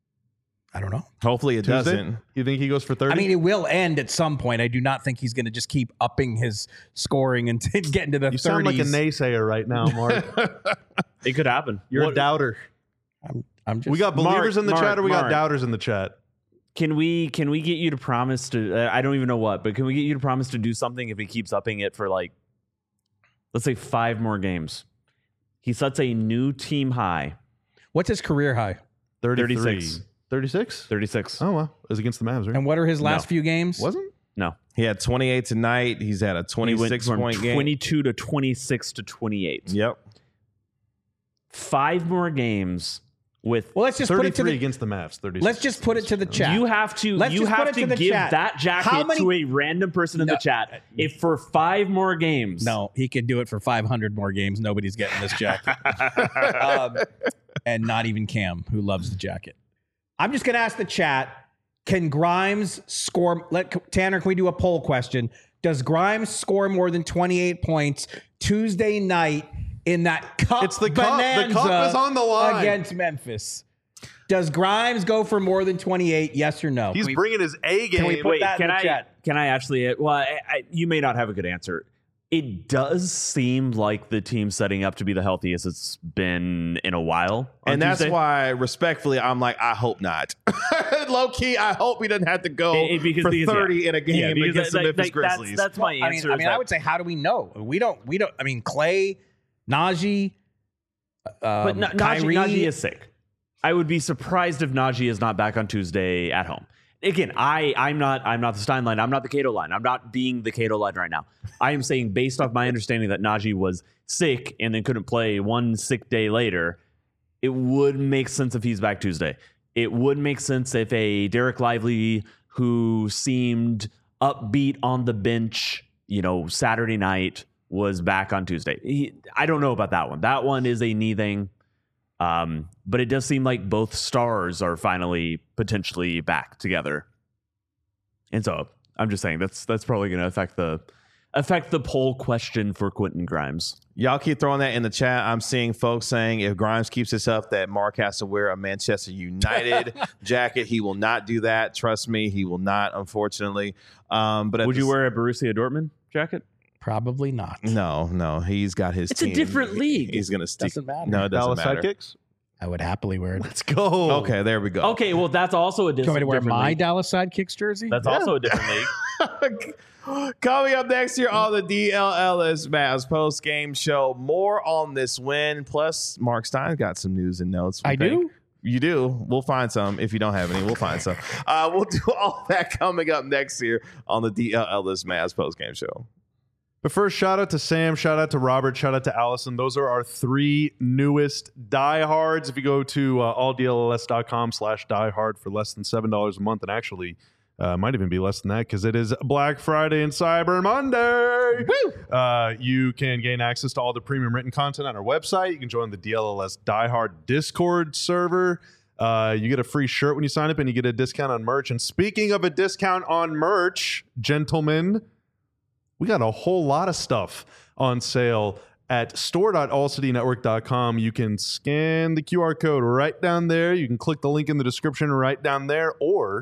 I don't know. Hopefully it Tuesday? doesn't. You think he goes for thirty? I mean, it will end at some point. I do not think he's going to just keep upping his scoring and t- get into the you thirties. sound like a naysayer right now, Mark. It could happen. You're What- a doubter. I'm, I'm just, We got believers Mark, in the Mark, chat or we got Mark. doubters in the chat? Can we can we get you to promise to uh, I don't even know what, but can we get you to promise to do something if he keeps upping it for like, let's say five more games? He sets a new team high. What's his career high? thirty-three. thirty-six. thirty-six? thirty-six. Oh, well. It was against the Mavs, right? And what are his last No. few games? Wasn't? No. He had twenty-eight tonight. He's had a He went twenty-six from point game. twenty-two to twenty-six to twenty-eight. Yep. Five more games with Well, let's just put it to thirty-three the, against the Mavs. thirty-six. let's just put it to the chat. You have to Let's you just put have it to, to the give chat. that How jacket many- to a random person in No. the chat. If for five more games. No, he could do it for five hundred more games. Nobody's getting this jacket. um, and not even Cam, who loves the jacket. I'm just going to ask the chat, can Grimes score? Let Tanner, can we do a poll question? Does Grimes score more than twenty-eight points Tuesday night in that cup. It's the cup. The cup bonanza is on the line. against Memphis. Does Grimes go for more than twenty-eight? Yes or no? He's Can we- bringing his A game. Can we put Wait, that can in the I chat? can I actually? Well, I, I, you may not have a good answer. It does seem like the team's setting up to be the healthiest it's been in a while. on And that's Tuesday. why, respectfully, I'm like, I hope not. Low key, I hope he doesn't have to go It- it- because- for because, yeah. thirty in a game Yeah, because against that- the Memphis like, that's- Grizzlies. That's, my I mean, answer. I is mean, I that- would say, how do we know? We don't. We don't. I mean, Clay, Najee, um, but Na- Najee, Kyrie. Najee is sick. I would be surprised if Najee is not back on Tuesday at home. Again, I, I'm not I'm not the Stein line. I'm not the Cato line. I'm not being the Cato line right now. I am saying, based off my understanding that Najee was sick and then couldn't play one sick day later, it would make sense if he's back Tuesday. It would make sense if a Derek Lively, who seemed upbeat on the bench, you know, Saturday night, was back on Tuesday. He, I don't know about that one. That one is a knee thing. Um, but it does seem like both stars are finally potentially back together. And so I'm just saying that's that's probably going to affect the affect the poll question for Quentin Grimes. Y'all keep throwing that in the chat. I'm seeing folks saying if Grimes keeps this up, that Mark has to wear a Manchester United jacket. He will not do that. Trust me, he will not, unfortunately. Um, but at Would the you s- wear a Borussia Dortmund jacket? Probably not. No, no. He's got his It's a team. different league. He's going to stick. Doesn't matter. No, it doesn't Dallas matter. Sidekicks. I would happily wear it. Let's go. Okay, there we go. Okay, well that's also a Do dis- you want me to wear different my league. Dallas Sidekicks jersey? That's also a different league. Coming up next year on the D L Ellis Mavs post game show, more on this win. Plus, Mark Stein's got some news and notes. we I think. do? You do. We'll find some. If you don't have any, we'll find some. Uh, we'll do all that coming up next year on the D L Ellis Mavs post game show. But first, shout out to Sam, shout out to Robert, shout out to Allison. Those are our three newest diehards. If you go to uh, all D L L S dot com slash diehard for less than seven dollars a month, and actually uh, might even be less than that because it is Black Friday and Cyber Monday. Woo! Uh, you can gain access to all the premium written content on our website. You can join the D L L S Diehard Discord server. Uh, you get a free shirt when you sign up, and you get a discount on merch. And speaking of a discount on merch, gentlemen, we got a whole lot of stuff on sale at store dot all city network dot com. You can scan the Q R code right down there. You can click the link in the description right down there. Or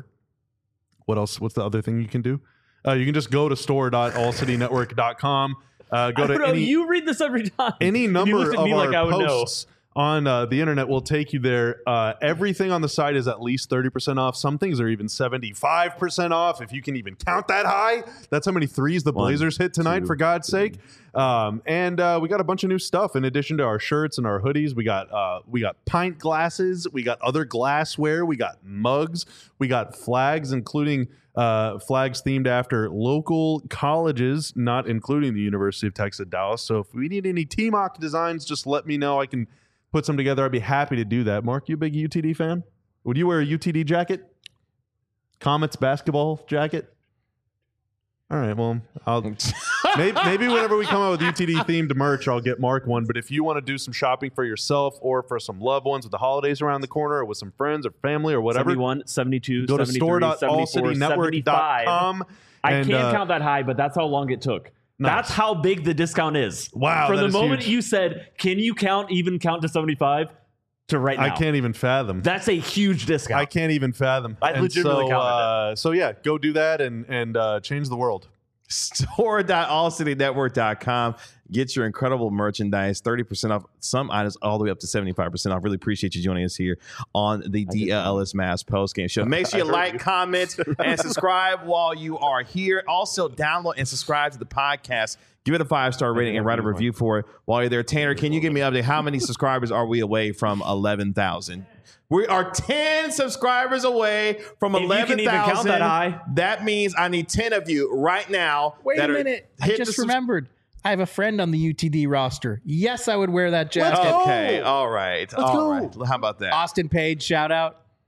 what else? What's the other thing you can do? Uh, you can just go to store dot all city network dot com. Uh, go I to don't know. any, You read this every time. any And you number look at of me our like I would know. posts on uh, the internet will take you there. Uh, everything on the site is at least thirty percent off. Some things are even seventy-five percent off, if you can even count that high. That's how many threes the One, Blazers hit tonight, two, for God's sake. Um, and uh, we got a bunch of new stuff in addition to our shirts and our hoodies. We got uh, we got pint glasses. We got other glassware. We got mugs. We got flags, including uh, flags themed after local colleges, not including the University of Texas at Dallas. So if we need any T M O C designs, just let me know. I can put some together. I'd be happy to do that. Mark, you a big U T D fan? Would you wear a U T D jacket? Comets basketball jacket? All right, well, I'll maybe, maybe whenever we come out with U T D themed merch, I'll get Mark one. But if you want to do some shopping for yourself or for some loved ones with the holidays around the corner, or with some friends or family or whatever, seventy-one, seventy-two, go to seventy-three, store dot all city network dot com. I and, can't uh, count that high, but that's how long it took. Nice. That's how big the discount is. Wow, From that the is moment huge. you said, can you count, even count to seventy-five, to right now. I can't even fathom. That's a huge discount. I can't even fathom. I And legitimately so, counted uh, so yeah, go do that and and uh, change the world. store dot all city network dot com. Get your incredible merchandise, thirty percent off some items, all the way up to seventy-five percent off. Really appreciate you joining us here on the D L L S Mavs postgame show. Make sure you like, comment, and subscribe while you are here. Also, download and subscribe to the podcast. Give it a five-star rating and write a review for it while you're there. Tanner, can you give me an update? How many subscribers are we away from eleven thousand? We are ten subscribers away from If you can eleven even count thousand. that high. That means I need ten of you right now. Wait that a are- minute. I hit just the subs- remembered. I have a friend on the U T D roster. Yes, I would wear that Let's jacket. go. Okay, all right, all go. right. How about that? Austin Page, shout out.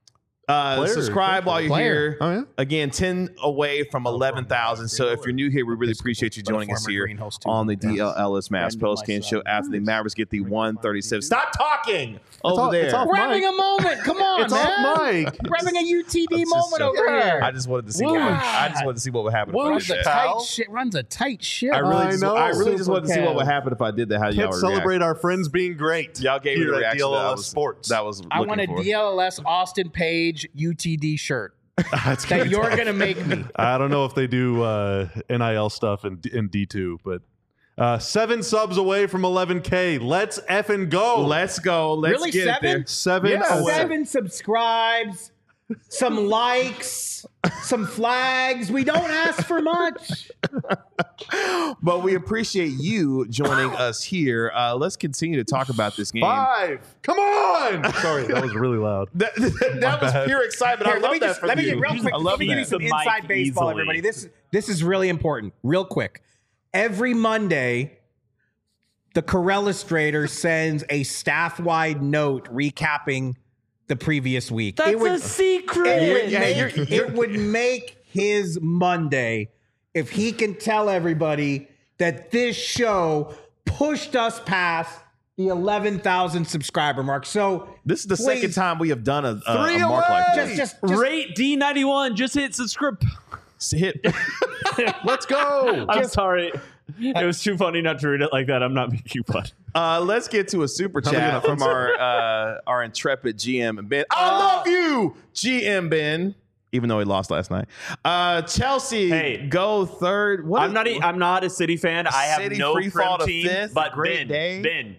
Uh, Player, subscribe while you're player. here. Oh, yeah? Again, ten away from eleven thousand. So if you're new here, we really appreciate you But a joining us former here greenhouse too. on the D L Ellis Mavs Friend of post game my show son. after the Mavericks get the one thirty-seven. Stop talking over off- there. it's off We're mic. having a moment. Come on, It's man. off mic. We're having a U T D It's just moment so- over here. I just wanted to see. What would, I just wanted to see what would happen. If I runs did a that. tight shit. Runs a tight shit. I really, I just, know. I really just Super wanted to see what Kev. would happen if I did that. How y'all Can't would celebrate react. our friends being great. Y'all gave me here the at reaction D L L S that I was, Sports. that was I want a looking for. D L L S Austin Page U T D shirt That's that gonna be you're tough. going to make me. I don't know if they do uh, N I L stuff in, in D two, but uh, seven subs away from eleven K. Let's effing go. Let's go. Let's Really, get seven? there. seven Yeah, away. Seven subscribes, some likes, some flags. We don't ask for much. But we appreciate you joining us here. Uh, let's continue to talk about this game. Five. Come on. Sorry, that was really loud. That, that, that was bad. pure excitement. Here, I let love me that just from let me you. get real quick. I Let love me give you that. some The mic inside baseball, easily. everybody. This this is really important. Real quick. Every Monday, the Corellustrator sends a staff-wide note recapping the previous week. That's it would, a secret. it would Yeah, make, you're- you're- it would make his Monday if he can tell everybody that this show pushed us past the eleven thousand subscriber mark. So This is the please, second time we have done a, a, Three a mark away! like Just, this. just, just Rate D ninety-one. Just hit subscribe. Hit. Let's go. I'm sorry. It was too funny not to read it like that. I'm not making fun. Uh, let's get to a super How many chat minutes? from our uh, our intrepid G M Ben. I Uh, love you, G M Ben. Even though he lost last night. Uh, Chelsea, Hey. go third. What I'm is- not. e- I'm not a City fan. I have City no free fall Prem to team. fifth, But great Ben, day. Ben,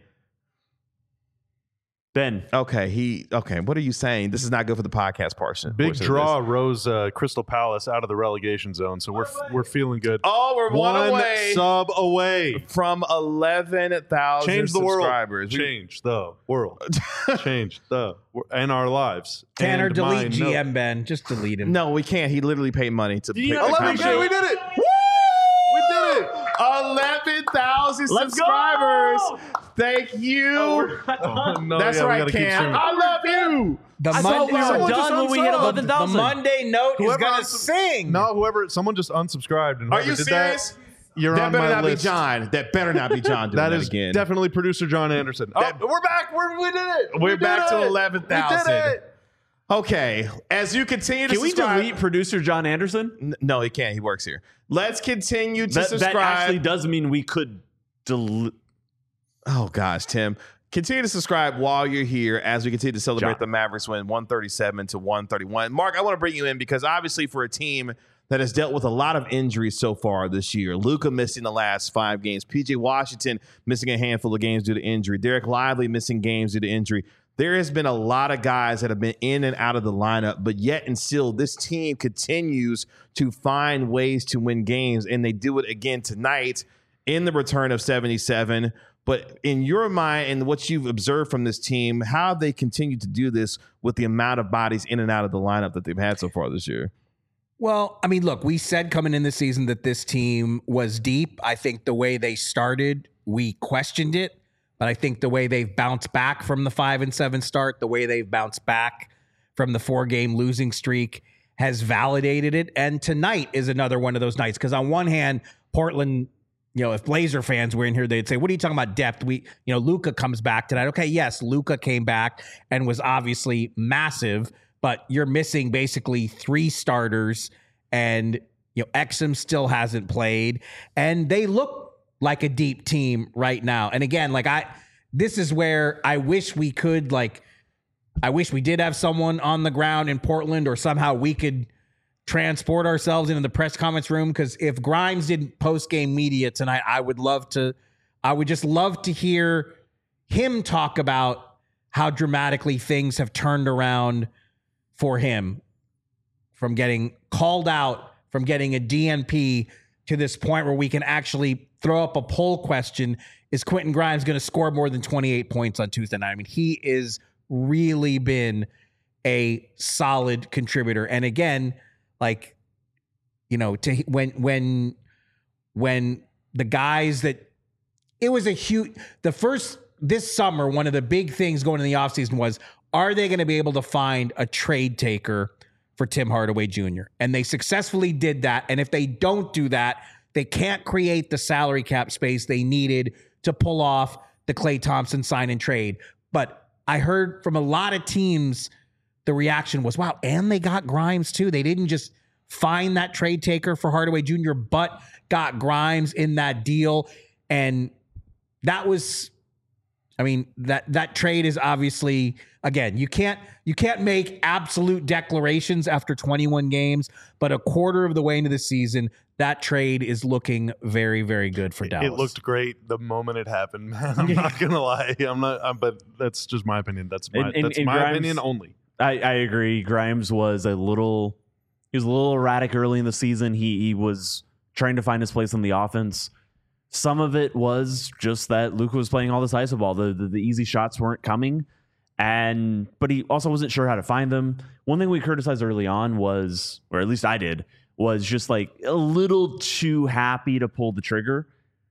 Ben. Okay, he. Okay, what are you saying? This is not good for the podcast portion. Big portion of draw this. rose uh, Crystal Palace out of the relegation zone, so we're we're feeling good. Oh, we're one, One away sub away. from eleven thousand Change the world. subscribers. We- Change the world. Change the wor- and our lives. Tanner, And delete mine. G No. M Ben. Just delete him. No, we can't. He literally paid money to. you pay know the the eleven K, comment. we did it. We did it. eleven thousand Let's subscribers. go! Thank you. Oh, no, That's yeah, we right, gotta keep Cam. streaming. I love you. The I thought Monday, we were Someone just done when we hit unsubbed. eleven the thousand. Monday note is Whoever gonna unsub- sing. No, whoever, someone just unsubscribed. And Are whoever you did serious? That, you're That on better my not list. be John. That better not be John doing that, That is again. definitely producer John Anderson. That- oh, we're back. We're, we did it. We're We did back to it. eleven We thousand. did it. Okay, as you continue to Can we subscribe, delete producer John Anderson? N- no, he can't. He works here. Let's continue to That, subscribe. that actually does mean we could delete. Oh gosh, Tim. Continue to subscribe while you're here as we continue to celebrate John. the Mavericks win one thirty-seven to one thirty-one. Mark, I want to bring you in because obviously for a team that has dealt with a lot of injuries so far this year, Luka missing the last five games, P J Washington missing a handful of games due to injury, Derek Lively missing games due to injury. There has been a lot of guys that have been in and out of the lineup, but yet and still this team continues to find ways to win games, and they do it again tonight in the return of seventy-seven. But in your mind and what you've observed from this team, how have they continued to do this with the amount of bodies in and out of the lineup that they've had so far this year? Well, I mean, look, we said coming in this season that this team was deep. I think the way they started, we questioned it. But I think the way they've bounced back from the five and seven start, the way they've bounced back from the four game losing streak has validated it. And tonight is another one of those nights. Because on one hand, Portland, you know, if Blazer fans were in here, they'd say, what are you talking about depth? We, you know, Luka comes back tonight. Okay, yes, Luka came back and was obviously massive, but you're missing basically three starters, and, you know, Exum still hasn't played, and they look like a deep team right now. And again, like I, this is where I wish we could, like, I wish we did have someone on the ground in Portland, or somehow we could transport ourselves into the press conference room. Because if Grimes did post-game media tonight, I would love to, I would just love to hear him talk about how dramatically things have turned around for him, from getting called out, from getting a D N P to this point where we can actually throw up a poll question: is Quentin Grimes going to score more than twenty-eight points on Tuesday night? I mean, he is really been a solid contributor. And again, like, you know, to when when when the guys that it was a huge the first this summer, one of the big things going in the offseason was, are they going to be able to find a trade taker for Tim Hardaway Junior? And they successfully did that. And if they don't do that, they can't create the salary cap space they needed to pull off the Klay Thompson sign and trade. But I heard from a lot of teams, the reaction was, wow, and they got Grimes too. They didn't just find that trade taker for Hardaway Junior, but got Grimes in that deal. And that was, I mean, that that trade is obviously, again, you can't you can't make absolute declarations after twenty-one games, but a quarter of the way into the season, that trade is looking very, very good for Dallas. It looked great the moment it happened, man. I'm not gonna lie. I'm not. I'm, but that's just my opinion. That's my And- and- that's and my Grimes- opinion only. I, I agree. Grimes was a little he was a little erratic early in the season. He he was trying to find his place in the offense. Some of it was just that Luka was playing all this iso ball. The, the the easy shots weren't coming, and but he also wasn't sure how to find them. One thing we criticized early on was, or at least I did, was just like a little too happy to pull the trigger.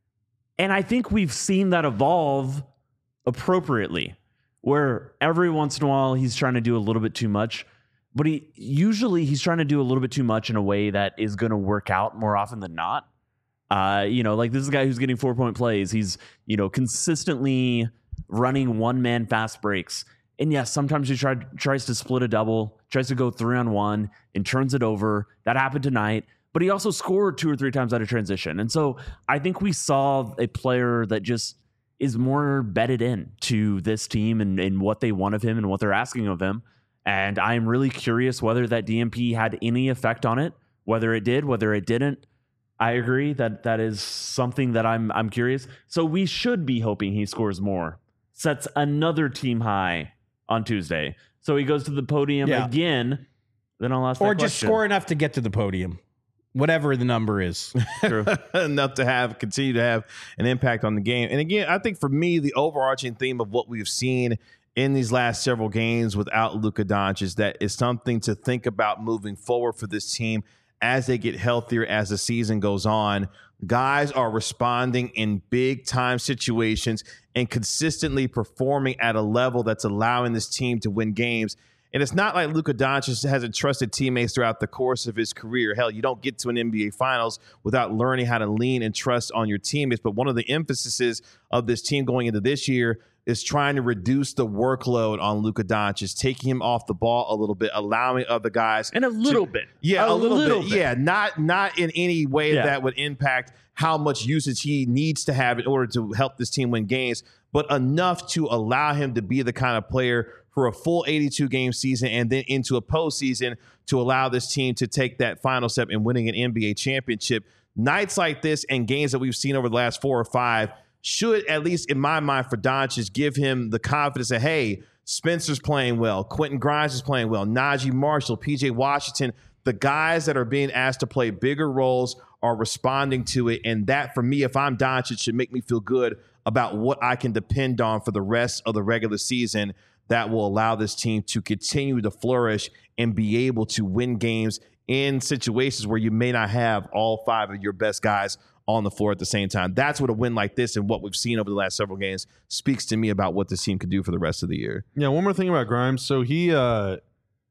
And I think we've seen that evolve appropriately, where every once in a while he's trying to do a little bit too much, but he usually he's trying to do a little bit too much in a way that is going to work out more often than not. Uh, you know, like this is a guy who's getting four point plays. He's, you know, consistently running one man fast breaks. And yes, sometimes he try, tries to split a double, tries to go three on one and turns it over. That happened tonight, but he also scored two or three times out of transition. And so I think we saw a player that just is more bedded in to this team and, and what they want of him and what they're asking of him. And I'm really curious whether that D M P had any effect on it, whether it did, whether it didn't. I agree that that is something that I'm I'm curious. So we should be hoping he scores more. Sets another team high on Tuesday. So he goes to the podium Yeah. again. Then I'll ask or that just question. score enough to get to the podium, whatever the number is. True. enough to have continue to have an impact on the game. And again, I think for me, the overarching theme of what we've seen in these last several games without Luka Doncic is that is something to think about moving forward for this team as they get healthier as the season goes on. Guys are responding in big time situations and consistently performing at a level that's allowing this team to win games. And it's not like Luka Doncic hasn't trusted teammates throughout the course of his career. Hell, you don't get to an N B A Finals without learning how to lean and trust on your teammates. But one of the emphases of this team going into this year is trying to reduce the workload on Luka Doncic, taking him off the ball a little bit, allowing other guys And a little to- bit. Yeah, a, A little, little bit. bit. Yeah, not not in any way Yeah. that would impact how much usage he needs to have in order to help this team win games, but enough to allow him to be the kind of player for a full eighty-two game season and then into a postseason to allow this team to take that final step in winning an N B A championship. Nights like this and games that we've seen over the last four or five should, at least in my mind, for Doncic, give him the confidence that, hey, Spencer's playing well, Quentin Grimes is playing well, Najee Marshall, P J Washington, the guys that are being asked to play bigger roles are responding to it. And that, for me, if I'm Doncic, should make me feel good about what I can depend on for the rest of the regular season that will allow this team to continue to flourish and be able to win games in situations where you may not have all five of your best guys on the floor at the same time. That's what a win like this and what we've seen over the last several games speaks to me about what this team could do for the rest of the year. Yeah, one more thing about Grimes. So he, uh,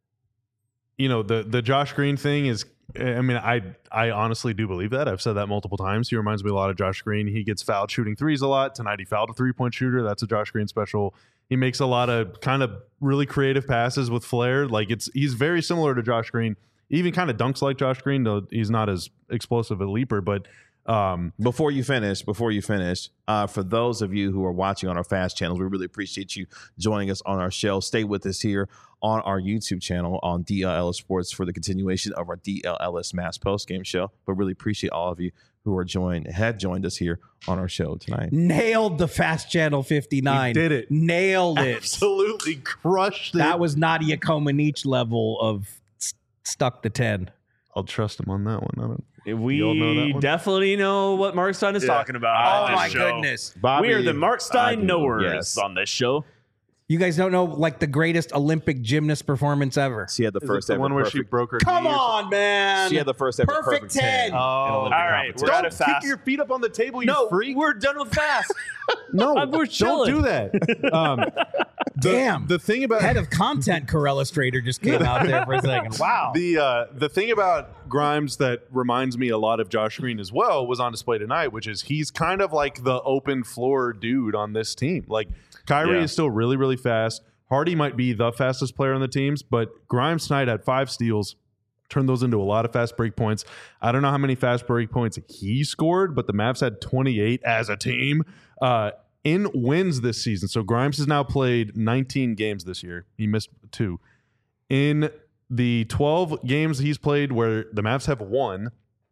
you know, the the Josh Green thing is, I mean, I I honestly do believe that. I've said that multiple times. He reminds me a lot of Josh Green. He gets fouled shooting threes a lot. Tonight he fouled a three-point shooter. That's a Josh Green special. He makes a lot of kind of really creative passes with flair. Like it's he's very similar to Josh Green. He even kind of dunks like Josh Green, though he's not as explosive a leaper, but Um, Before you finish, before you finish, uh, for those of you who are watching on our fast channels, we really appreciate you joining us on our show. Stay with us here on our YouTube channel on D L L Sports for the continuation of our D L L S Mass Postgame Show. But really appreciate all of you who are joined, had joined us here on our show tonight. Nailed the Fast Channel fifty-nine. He did it. Nailed it. absolutely crushed it. That was Nadia Comaneci level of st- stuck to ten. I'll trust him on that one. I don't, We all know that one? definitely know what Mark Stein is Yeah. talking about. Oh on this my show. goodness. Bobby, We are the Mark I Stein do, knowers yes. on this show. You guys don't know like the greatest Olympic gymnast performance ever. She had the Is first it the ever one where she perfect. broke her Come knee or on, man. She had the first ever Perfect perfect, ten. ten. Oh. in All Olympic right, competition. we're out Don't of fast. kick your feet up on the table, you No, freak. we're done with fast. No, I'm- we're don't chilling. do that. Um, The, Damn. The thing about Head of content Corellustrator just came out there for a second. Wow. The uh, the thing about Grimes that reminds me a lot of Josh Green as well was on display tonight, which is he's kind of like the open floor dude on this team. Like Kyrie Yeah. is still really, really fast. Hardy might be the fastest player on the teams, but Grimes tonight had five steals, turned those into a lot of fast break points. I don't know how many fast break points he scored, but the Mavs had twenty-eight as a team uh, in wins this season. So Grimes has now played nineteen games this year. He missed two. In the twelve games he's played where the Mavs have won,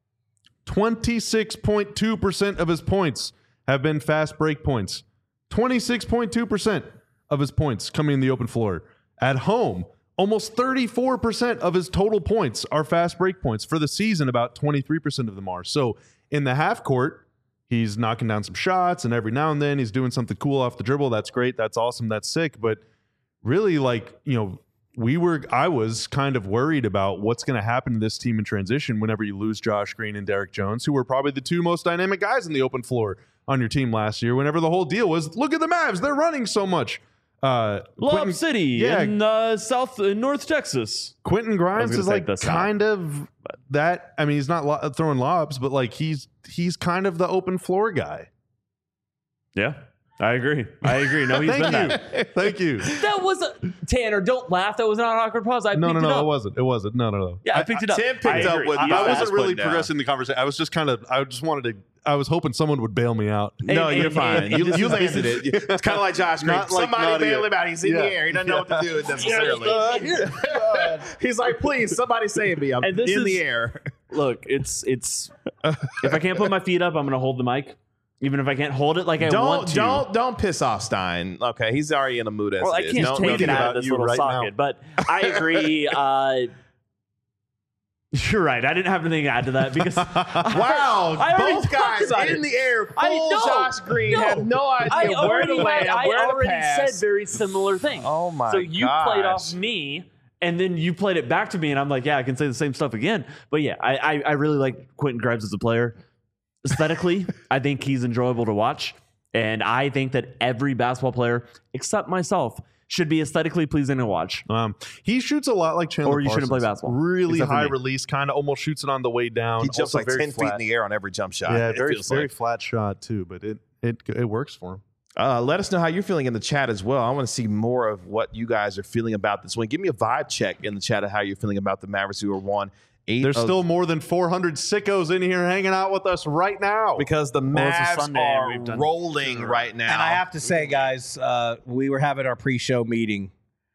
twenty-six point two percent of his points have been fast break points. twenty-six point two percent of his points coming in the open floor. At home, almost thirty-four percent of his total points are fast break points. For the season, about twenty-three percent of them are. So in the half court, he's knocking down some shots, and every now and then he's doing something cool off the dribble. That's great. That's awesome. That's sick. But really, like, you know, we were, I was kind of worried about what's going to happen to this team in transition whenever you lose Josh Green and Derek Jones, who were probably the two most dynamic guys in the open floor on your team last year. Whenever the whole deal was, look at the Mavs, they're running so much. Uh, Lob Quentin- City yeah. in uh, South in North Texas. Quentin Grimes gonna is take like this out. kind of that. I mean, he's not lo- throwing lobs, but like he's he's kind of the open floor guy. Yeah, I agree. I agree. No, he's Thank been you, that. thank you. That was a, Tanner. Don't laugh. That was not an awkward pause. I No, no, picked it no, up. it wasn't. It wasn't. No, no, no. Yeah, I picked it up. Tim picked I up agree. with- He I was Fast wasn't really putting down. progressing the conversation. I was just kind of. I just wanted to. I was hoping someone would bail me out. No, And- you're and- fine. and You, this you is- landed it. It's kind of like Josh Green. Not like Somebody Nadia. bail him out. He's in Yeah. the air. He doesn't know what to do necessarily. Uh, He's like, please, somebody save me. I'm And this in is- the air. Look, it's it's. If I can't put my feet up, I'm going to hold the mic, even if I can't hold it like I Don't want to. don't don't piss off Stein. Okay, he's already in a mood as Well, I it is. can't Don't- take don't it do out that. of this you little right socket, now. but I agree. Uh, you're right. I didn't have anything to add to that because Wow, I already both talked guys about in it. the air. I Full know. Josh Green No. have no I idea where already to land, had, I where to already pass. said very similar things. Oh my So you gosh. played off me, and then you played it back to me, and I'm like, yeah, I can say the same stuff again. But yeah, I I, I really like Quentin Grimes as a player. Aesthetically, I think he's enjoyable to watch, and I think that every basketball player, except myself, should be aesthetically pleasing to watch. Um, he shoots a lot like Chandler Or you shouldn't play Parsons. basketball, Really except for high me. release, kind of almost shoots it on the way down. He jumps Also like very ten feet flat. in the air on every jump shot. Yeah, it very feels very like. flat shot too, but it it it works for him. Uh, let us know how you're feeling in the chat as well. I want to see more of what you guys are feeling about this one. Give me a vibe check in the chat of how you're feeling about the Mavericks who are one. Eight There's of- still more than four hundred sickos in here hanging out with us right now. because the Well, it's a Mavs Sunday and are we've done- rolling right now. And I have to say, guys, uh, we were having our pre-show meeting.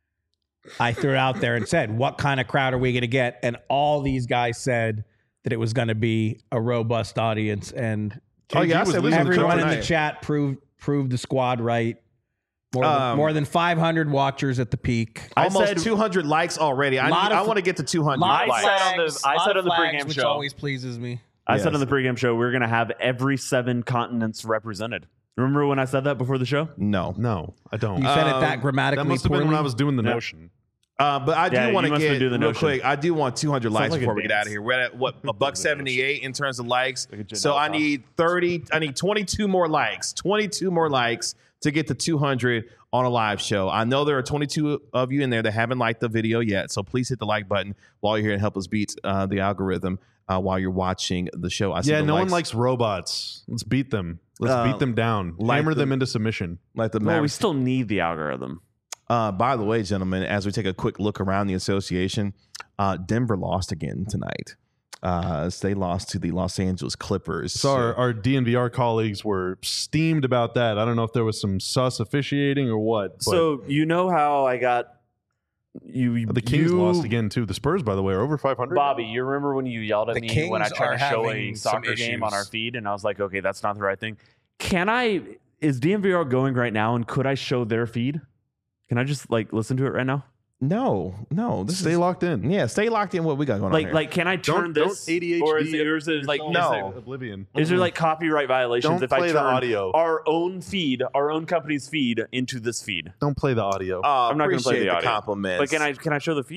I threw it out there and said, what kind of crowd are we going to get? And all these guys said that it was going to be a robust audience. And Oh, yeah, I was said we losing should the everyone coach in the tonight. chat proved proved the squad right. More than, Um, more than five hundred watchers at the peak. I Almost said- two hundred likes already. I, Lot need, of- I want to get to two hundred Lot of likes. said on the- flags, I lot said of on the flags, pregame which show. always pleases me. I said Yes. on the pregame show we're going to have every seven continents represented. Remember when I said that before the show? No. no, I don't. You said it Um, that grammatically that must have been when poorly. I was doing the Yeah. notion. Uh, but I do Yeah, want you to must have get do the real notion. quick. I do want two hundred likes like a before we get out dance. of here. We're at what a buck seventy-eight in terms of likes. Like a Janelle So I Pop. need thirty. I need twenty-two more likes. twenty-two more likes to get to two hundred on a live show. I know there are twenty-two of you in there that haven't liked the video yet. So please hit the like button while you're here and help us beat uh, the algorithm uh, while you're watching the show. I see Yeah, the no one likes, likes robots. Let's beat them. Let's Uh, beat them down. like Hammer the- them into submission. like the Well, we Mavericks. still need the algorithm. Uh, by the way, gentlemen, as we take a quick look around the association, uh, Denver lost again tonight. Uh, they lost to the Los Angeles Clippers. So our, our D N V R colleagues were steamed about that. I don't know if there was some sus officiating or what. But So you know how I got you? the Kings you, lost again too. The Spurs, by the way, are over five hundred. Bobby, you remember when you yelled at The me when I Kings tried are to show a having some soccer game on issues. our feed, and I was like, okay, that's not the right thing. Can I? Is D N V R going right now, and could I show their feed? Can I just like listen to it right now? no, no, this Stay is, locked in. Yeah, stay locked in. What we got going on Like, here? like, can I turn Don't- this? don't A D H D or is it, or is it like No. Oblivion. Is there like copyright violations Don't if I play turn the audio. our own feed, our own company's feed into this feed? Don't play the audio. uh, I'm not gonna play appreciate the audio. compliments. But can I can I show the feed?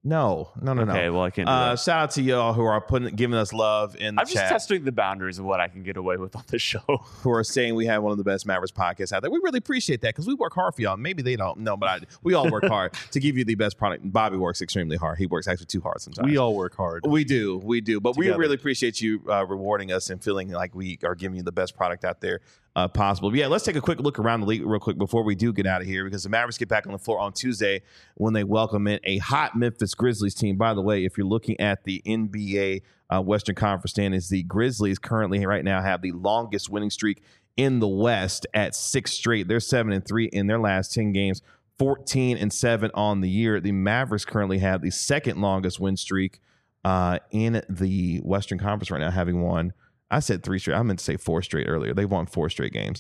No, no, no, no. Okay, well, I can't do Uh, that. shout out to y'all who are putting, giving us love in the I'm just chat, testing the boundaries of what I can get away with on this show. who are saying we have one of the best Mavericks podcasts out there. We really appreciate that because we work hard for y'all. Maybe they don't know, but I, we all work hard to give you the best product. Bobby works extremely hard. He works actually too hard sometimes. We all work hard. We do, we do, but Together. we really appreciate you uh, rewarding us and feeling like we are giving you the best product out there uh, possible. But yeah, let's take a quick look around the league real quick before we do get out of here, because the Mavericks get back on the floor on Tuesday when they welcome in a hot Memphis Grizzlies team. By the way, if you're looking at the N B A uh, Western Conference standings, the Grizzlies currently right now have the longest winning streak in the West at six straight. They're seven and three in their last ten games. fourteen and seven on the year. The Mavericks currently have the second longest win streak uh, in the Western Conference right now, having won. I said three straight. I meant to say four straight earlier. They've won four straight games,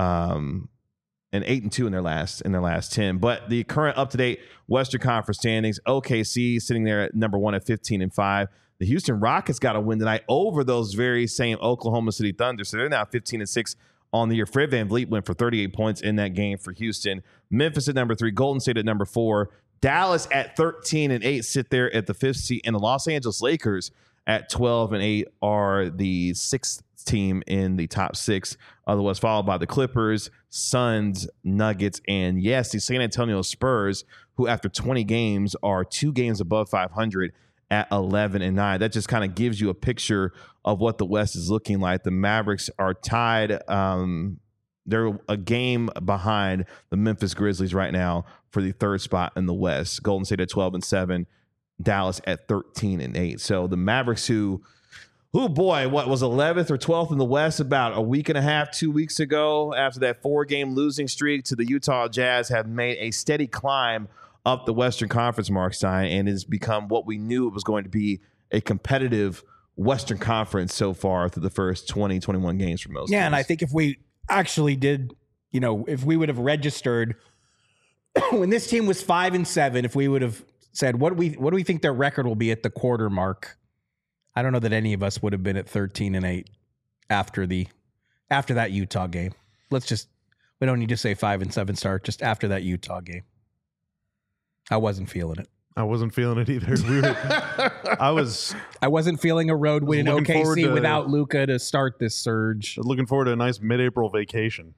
um, and eight and two in their last in their last ten. But the current up to date Western Conference standings: O K C sitting there at number one at fifteen and five. The Houston Rockets got a win tonight over those very same Oklahoma City Thunder, so they're now fifteen and six on the year. Fred VanVleet went for thirty-eight points in that game for Houston. Memphis at number three, Golden State at number four, Dallas at thirteen and eight sit there at the fifth seat, and the Los Angeles Lakers at twelve and eight are the sixth team in the top six. Otherwise, followed by the Clippers, Suns, Nuggets, and yes, the San Antonio Spurs, who after twenty games are two games above five hundred at eleven and nine. That just kind of gives you a picture of what the West is looking like. The Mavericks are tied. Um, they're a game behind the Memphis Grizzlies right now for the third spot in the West. Golden State at twelve and seven, Dallas at thirteen and eight. So the Mavericks, who, who boy, what was eleventh or twelfth in the West about a week and a half, two weeks ago, after that four-game losing streak to the Utah Jazz, have made a steady climb up the Western Conference, Mark Stein, and has become what we knew it was going to be, a competitive Western Conference so far through the first twenty, twenty-one games for most Yeah, teams. and I think if we actually did, you know, if we would have registered when this team was five and seven, if we would have said what do we what do we think their record will be at the quarter mark, I don't know that any of us would have been at thirteen and eight after the after that Utah game. Let's just we don't need to say five and seven start, just after that Utah game. I wasn't feeling it. I wasn't feeling it either. We were, I was I wasn't feeling a road win in looking O K forward C to- without Luka to start this surge. looking forward to a nice mid-April vacation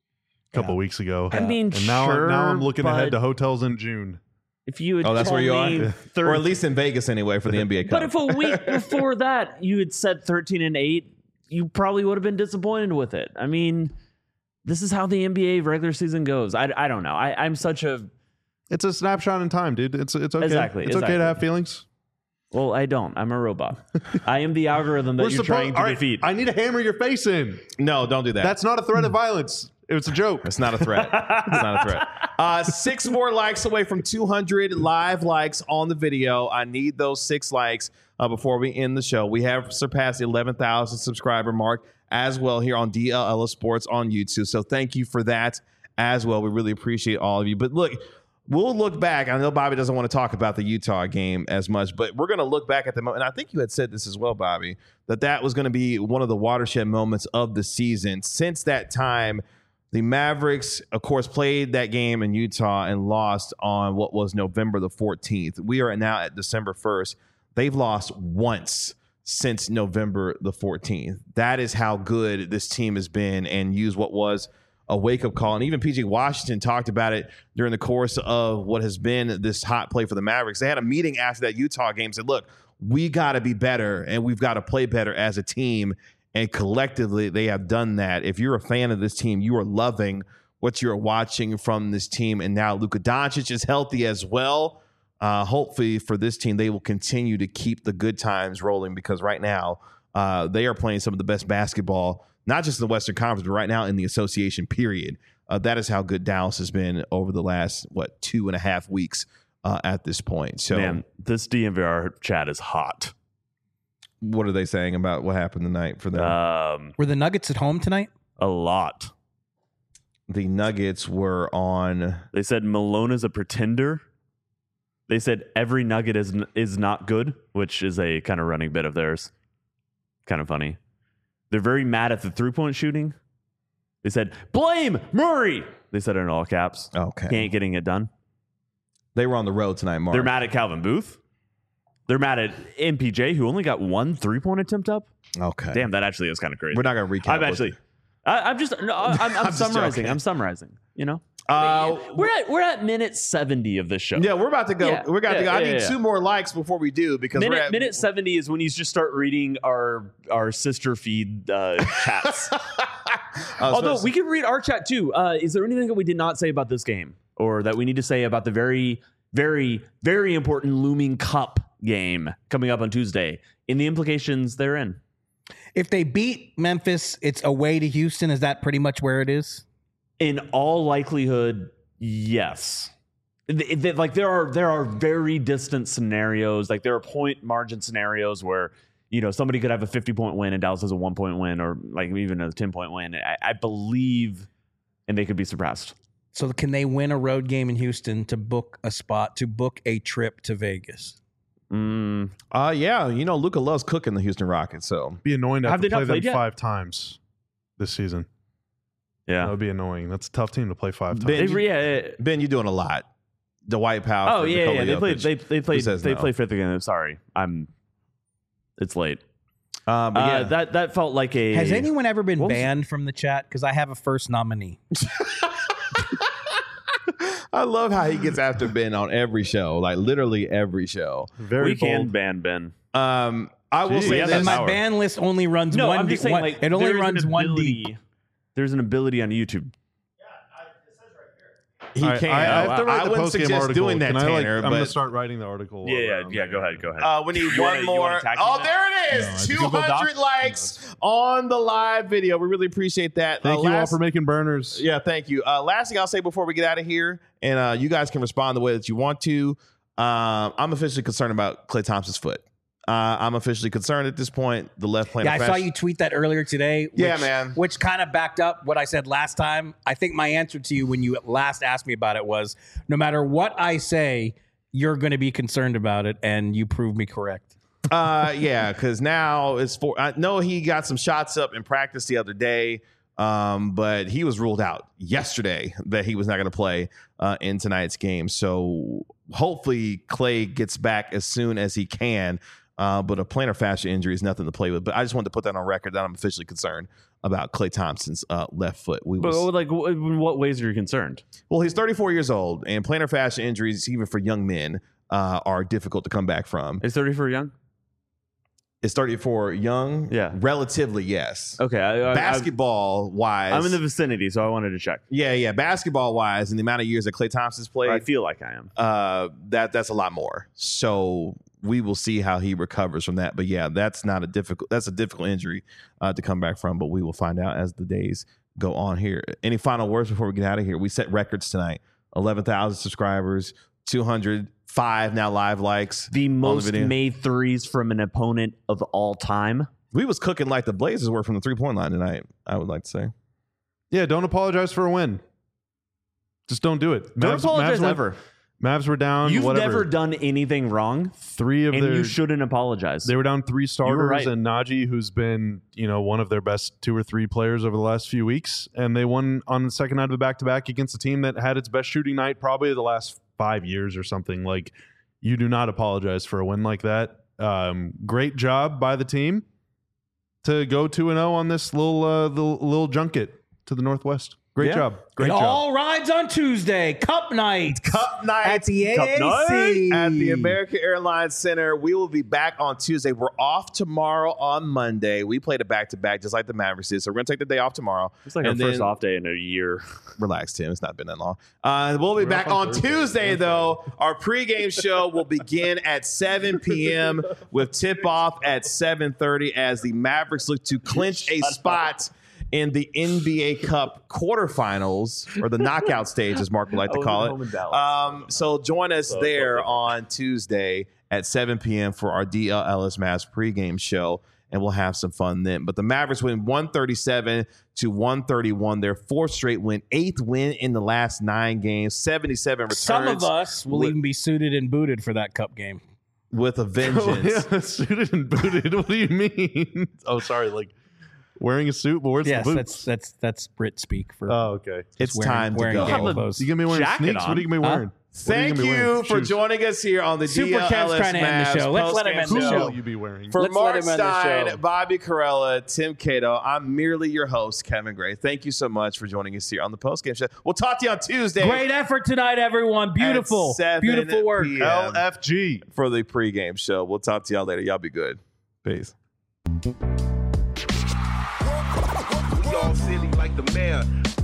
a couple Yeah. weeks ago. I mean, and now, sure, now I'm looking but ahead to hotels in June. if you had Oh, that's where told you me are? third- Or at least in Vegas anyway for the N B A Cup. But if a week before that you had said thirteen and eight, you probably would have been disappointed with it. I mean, this is how the N B A regular season goes. I, I don't know. I, I'm such a It's a snapshot in time, dude. It's it's okay. Exactly, It's okay exactly. to have feelings. well, I don't. I'm a robot. I am the algorithm that We're you're suppo- trying to all right, defeat. I need to hammer your face in. no, don't do that. That's not a threat of violence. It's a joke. It's not a threat. It's not a threat. Uh, six more likes away from two hundred live likes on the video. I need those six likes uh, before we end the show. We have surpassed the eleven thousand subscriber mark as well here on D L L Sports on YouTube. So thank you for that as well. We really appreciate all of you. But look, we'll look back. I know Bobby doesn't want to talk about the Utah game as much, but we're going to look back at the moment. And I think you had said this as well, Bobby, that that was going to be one of the watershed moments of the season. Since that time, the Mavericks, of course, played that game in Utah and lost on what was November the fourteenth. We are now at December first. They've lost once since November the fourteenth. That is how good this team has been, and use what was a wake-up call. And even P J Washington talked about it during the course of what has been this hot play for the Mavericks. They had a meeting after that Utah game, said, look, we got to be better, and we've got to play better as a team. And collectively, they have done that. If you're a fan of this team, you are loving what you're watching from this team. And now Luka Doncic is healthy as well. Uh, hopefully for this team, they will continue to keep the good times rolling, because right now uh, they are playing some of the best basketball, not just in the Western Conference, but right now in the association period. Uh, that is how good Dallas has been over the last, what, two and a half weeks uh, at this point. So, Man, this D N V R chat is hot. what are they saying about what happened tonight for them? Um, Were the Nuggets at home tonight? a lot. the Nuggets were on. They said Malone is a pretender. They said every Nugget is is not good, which is a kind of running bit of theirs. Kind of funny. They're very mad at the three-point shooting. They said, blame Murray. They said it in all caps. Okay. He ain't getting it done. They were on the road tonight, Mark. They're mad at Calvin Booth. They're mad at M P J, who only got one three-point attempt up. Okay. Damn, that actually is kind of crazy. We're not going to recap. I'm actually, I, I'm just, no, I'm, I'm, I'm just summarizing. joking. I'm summarizing. You know, Uh, we're at we're at minute seventy of this show. yeah, we're about to go. Yeah. We're about to Yeah, go. I yeah, need yeah. two more likes before we do because we're Minute, at minute seventy is when you just start reading our our sister feed uh, chats. Although we can read our chat too. Uh, is there anything that we did not say about this game, or that we need to say about the very, very, very important looming cup game coming up on Tuesday and the implications therein? If they beat Memphis, it's away to Houston. Is that pretty much where it is? In all likelihood, yes. Th- th- Like there are there are very distant scenarios. Like there are point margin scenarios where, you know, somebody could have a fifty point win and Dallas has a one point win, or like even a ten point win. I, I believe, and they could be surpassed. So can they win a road game in Houston to book a spot, to book a trip to Vegas? Mm, Uh, yeah, you know, Luka loves cooking the Houston Rockets. So Be annoying to have, Have to they not play them played yet? five times this season. That yeah. would be annoying. That's a tough team to play five times. Ben, They, re- yeah. Ben, you're doing a lot. The White Power. Oh yeah, yeah. They played. They they played. says They no? played fifth again. Sorry, I'm. It's late. Uh, but Uh, yeah, that that felt like a. Has anyone ever been What was- banned from the chat? Because I have a first nominee. I love how he gets after Ben on every show, like literally every show. Very we can bold. ban Ben? Um, I will Gee, say yeah, this. that And my power. ban list only runs No, one. I'm just deep- saying. one- Like it only there's an runs one ability- deep. There's an ability on YouTube. He I, can. I, I have to write I the wouldn't post-game suggest article. doing that, Can I, like, Tanner. I'm going to but start writing the article. Yeah, yeah, um, yeah. Go ahead. Go ahead. uh, we need You one wanna- you more. wanna tag team Oh, that? there it No, is. it's two Google hundred Docs. likes on the live video. We really appreciate that. Thank Uh, you all last- for making burners. Yeah, thank you. Uh, last thing I'll say before we get out of here, and uh, you guys can respond the way that you want to. Um, I'm officially concerned about Klay Thompson's foot. Uh, I'm officially concerned at this point. The left plantar Yeah, I saw fascia- you tweet that earlier today. Which, Yeah, man. Which kind of backed up what I said last time. I think my answer to you when you last asked me about it was, no matter what I say, you're going to be concerned about it, and you proved me correct. Uh, yeah, because now it's for. I know he got some shots up in practice the other day, um, but he was ruled out yesterday that he was not going to play uh, in tonight's game. So hopefully Klay gets back as soon as he can. Uh, but a plantar fascia injury is nothing to play with. But I just wanted to put that on record that I'm officially concerned about Klay Thompson's uh, left foot. We But was, like, w- in what ways are you concerned? well, he's thirty-four years old, and plantar fascia injuries, even for young men, uh, are difficult to come back from. Is thirty for young? It's thirty-four young, Yeah. relatively, yes. Okay, I, I, Basketball wise, I'm in the vicinity, so I wanted to check. yeah, yeah. Basketball wise, and the amount of years that Klay Thompson's I played, feel like I am. uh, that that's a lot more. So we will see how he recovers from that. But yeah, that's not a difficult. That's a difficult injury uh, to come back from. But we will find out as the days go on here. Any final words before we get out of here? We set records tonight: eleven thousand subscribers, two hundred five now live likes. The most video. made threes from an opponent of all time. We was cooking like the Blazers were from the three point line tonight. I would like to say. Yeah, don't apologize for a win. Just don't do it. Don't Mavs- apologize Mavs were- ever. Mavs were down. You've whatever. never done anything wrong, three of and their. you shouldn't apologize. They were down three starters, right. and Najee, who's been you know one of their best two or three players over the last few weeks, and they won on the second night of a back to back against a team that had its best shooting night probably the last five years or something. Like, you do not apologize for a win like that. Um, great job by the team to go two and zero on this little uh, the little junket to the Northwest. Great Yeah. job, great it job. all rides on Tuesday. Cup night. Cup night At the Cup A A C. night at the American Airlines Center. We will be back on Tuesday. We're off tomorrow on Monday. We played a back to back just like the Mavericks did. So we're gonna take the day off tomorrow. It's like And our first then- off day in a year. Relax, Tim. It's not been that long. Uh, we'll be We're back off on on Thursday. Tuesday, though. Our pregame show will begin at seven p.m. with tip off at seven thirty as the Mavericks look to clinch a spot in the N B A Cup quarterfinals, or the knockout stage, as Mark would like to call it. Um, so join us there on Tuesday at seven p.m. for our D L Ellis Mavs pregame show, and we'll have some fun then. But the Mavericks win one thirty-seven to one thirty-one. Their fourth straight win, eighth win in the last nine games, seventy-seven returns. Some of us will with, even be suited and booted for that cup game. with a Oh, vengeance. yeah, suited and booted. What do you mean? Oh, sorry, like wearing a suit, but where's Yes, the that's boots? that's that's Brit speak for. Oh, okay. It's wearing- time to wearing go. gable clothes. You gonna be wearing Jacket sneaks? on. What are you gonna be Huh? wearing? Thank gonna be you wearing? for Shoes. joining us here on the Super D L Kev's L S trying to end the Mavs show. Let's let him postgame end the Who show. will you be wearing? For Let's Mark let him end the Stein, show. Bobby Carella, Tim Cato, I'm merely your host, Kevin Gray. Thank you so much for joining us here on the postgame show. We'll talk to you on Tuesday. Great effort tonight, everyone. Beautiful. seven Beautiful work. p m L F G. for the pregame show. We'll talk to y'all later. Y'all be good. Peace. We all silly like the mayor.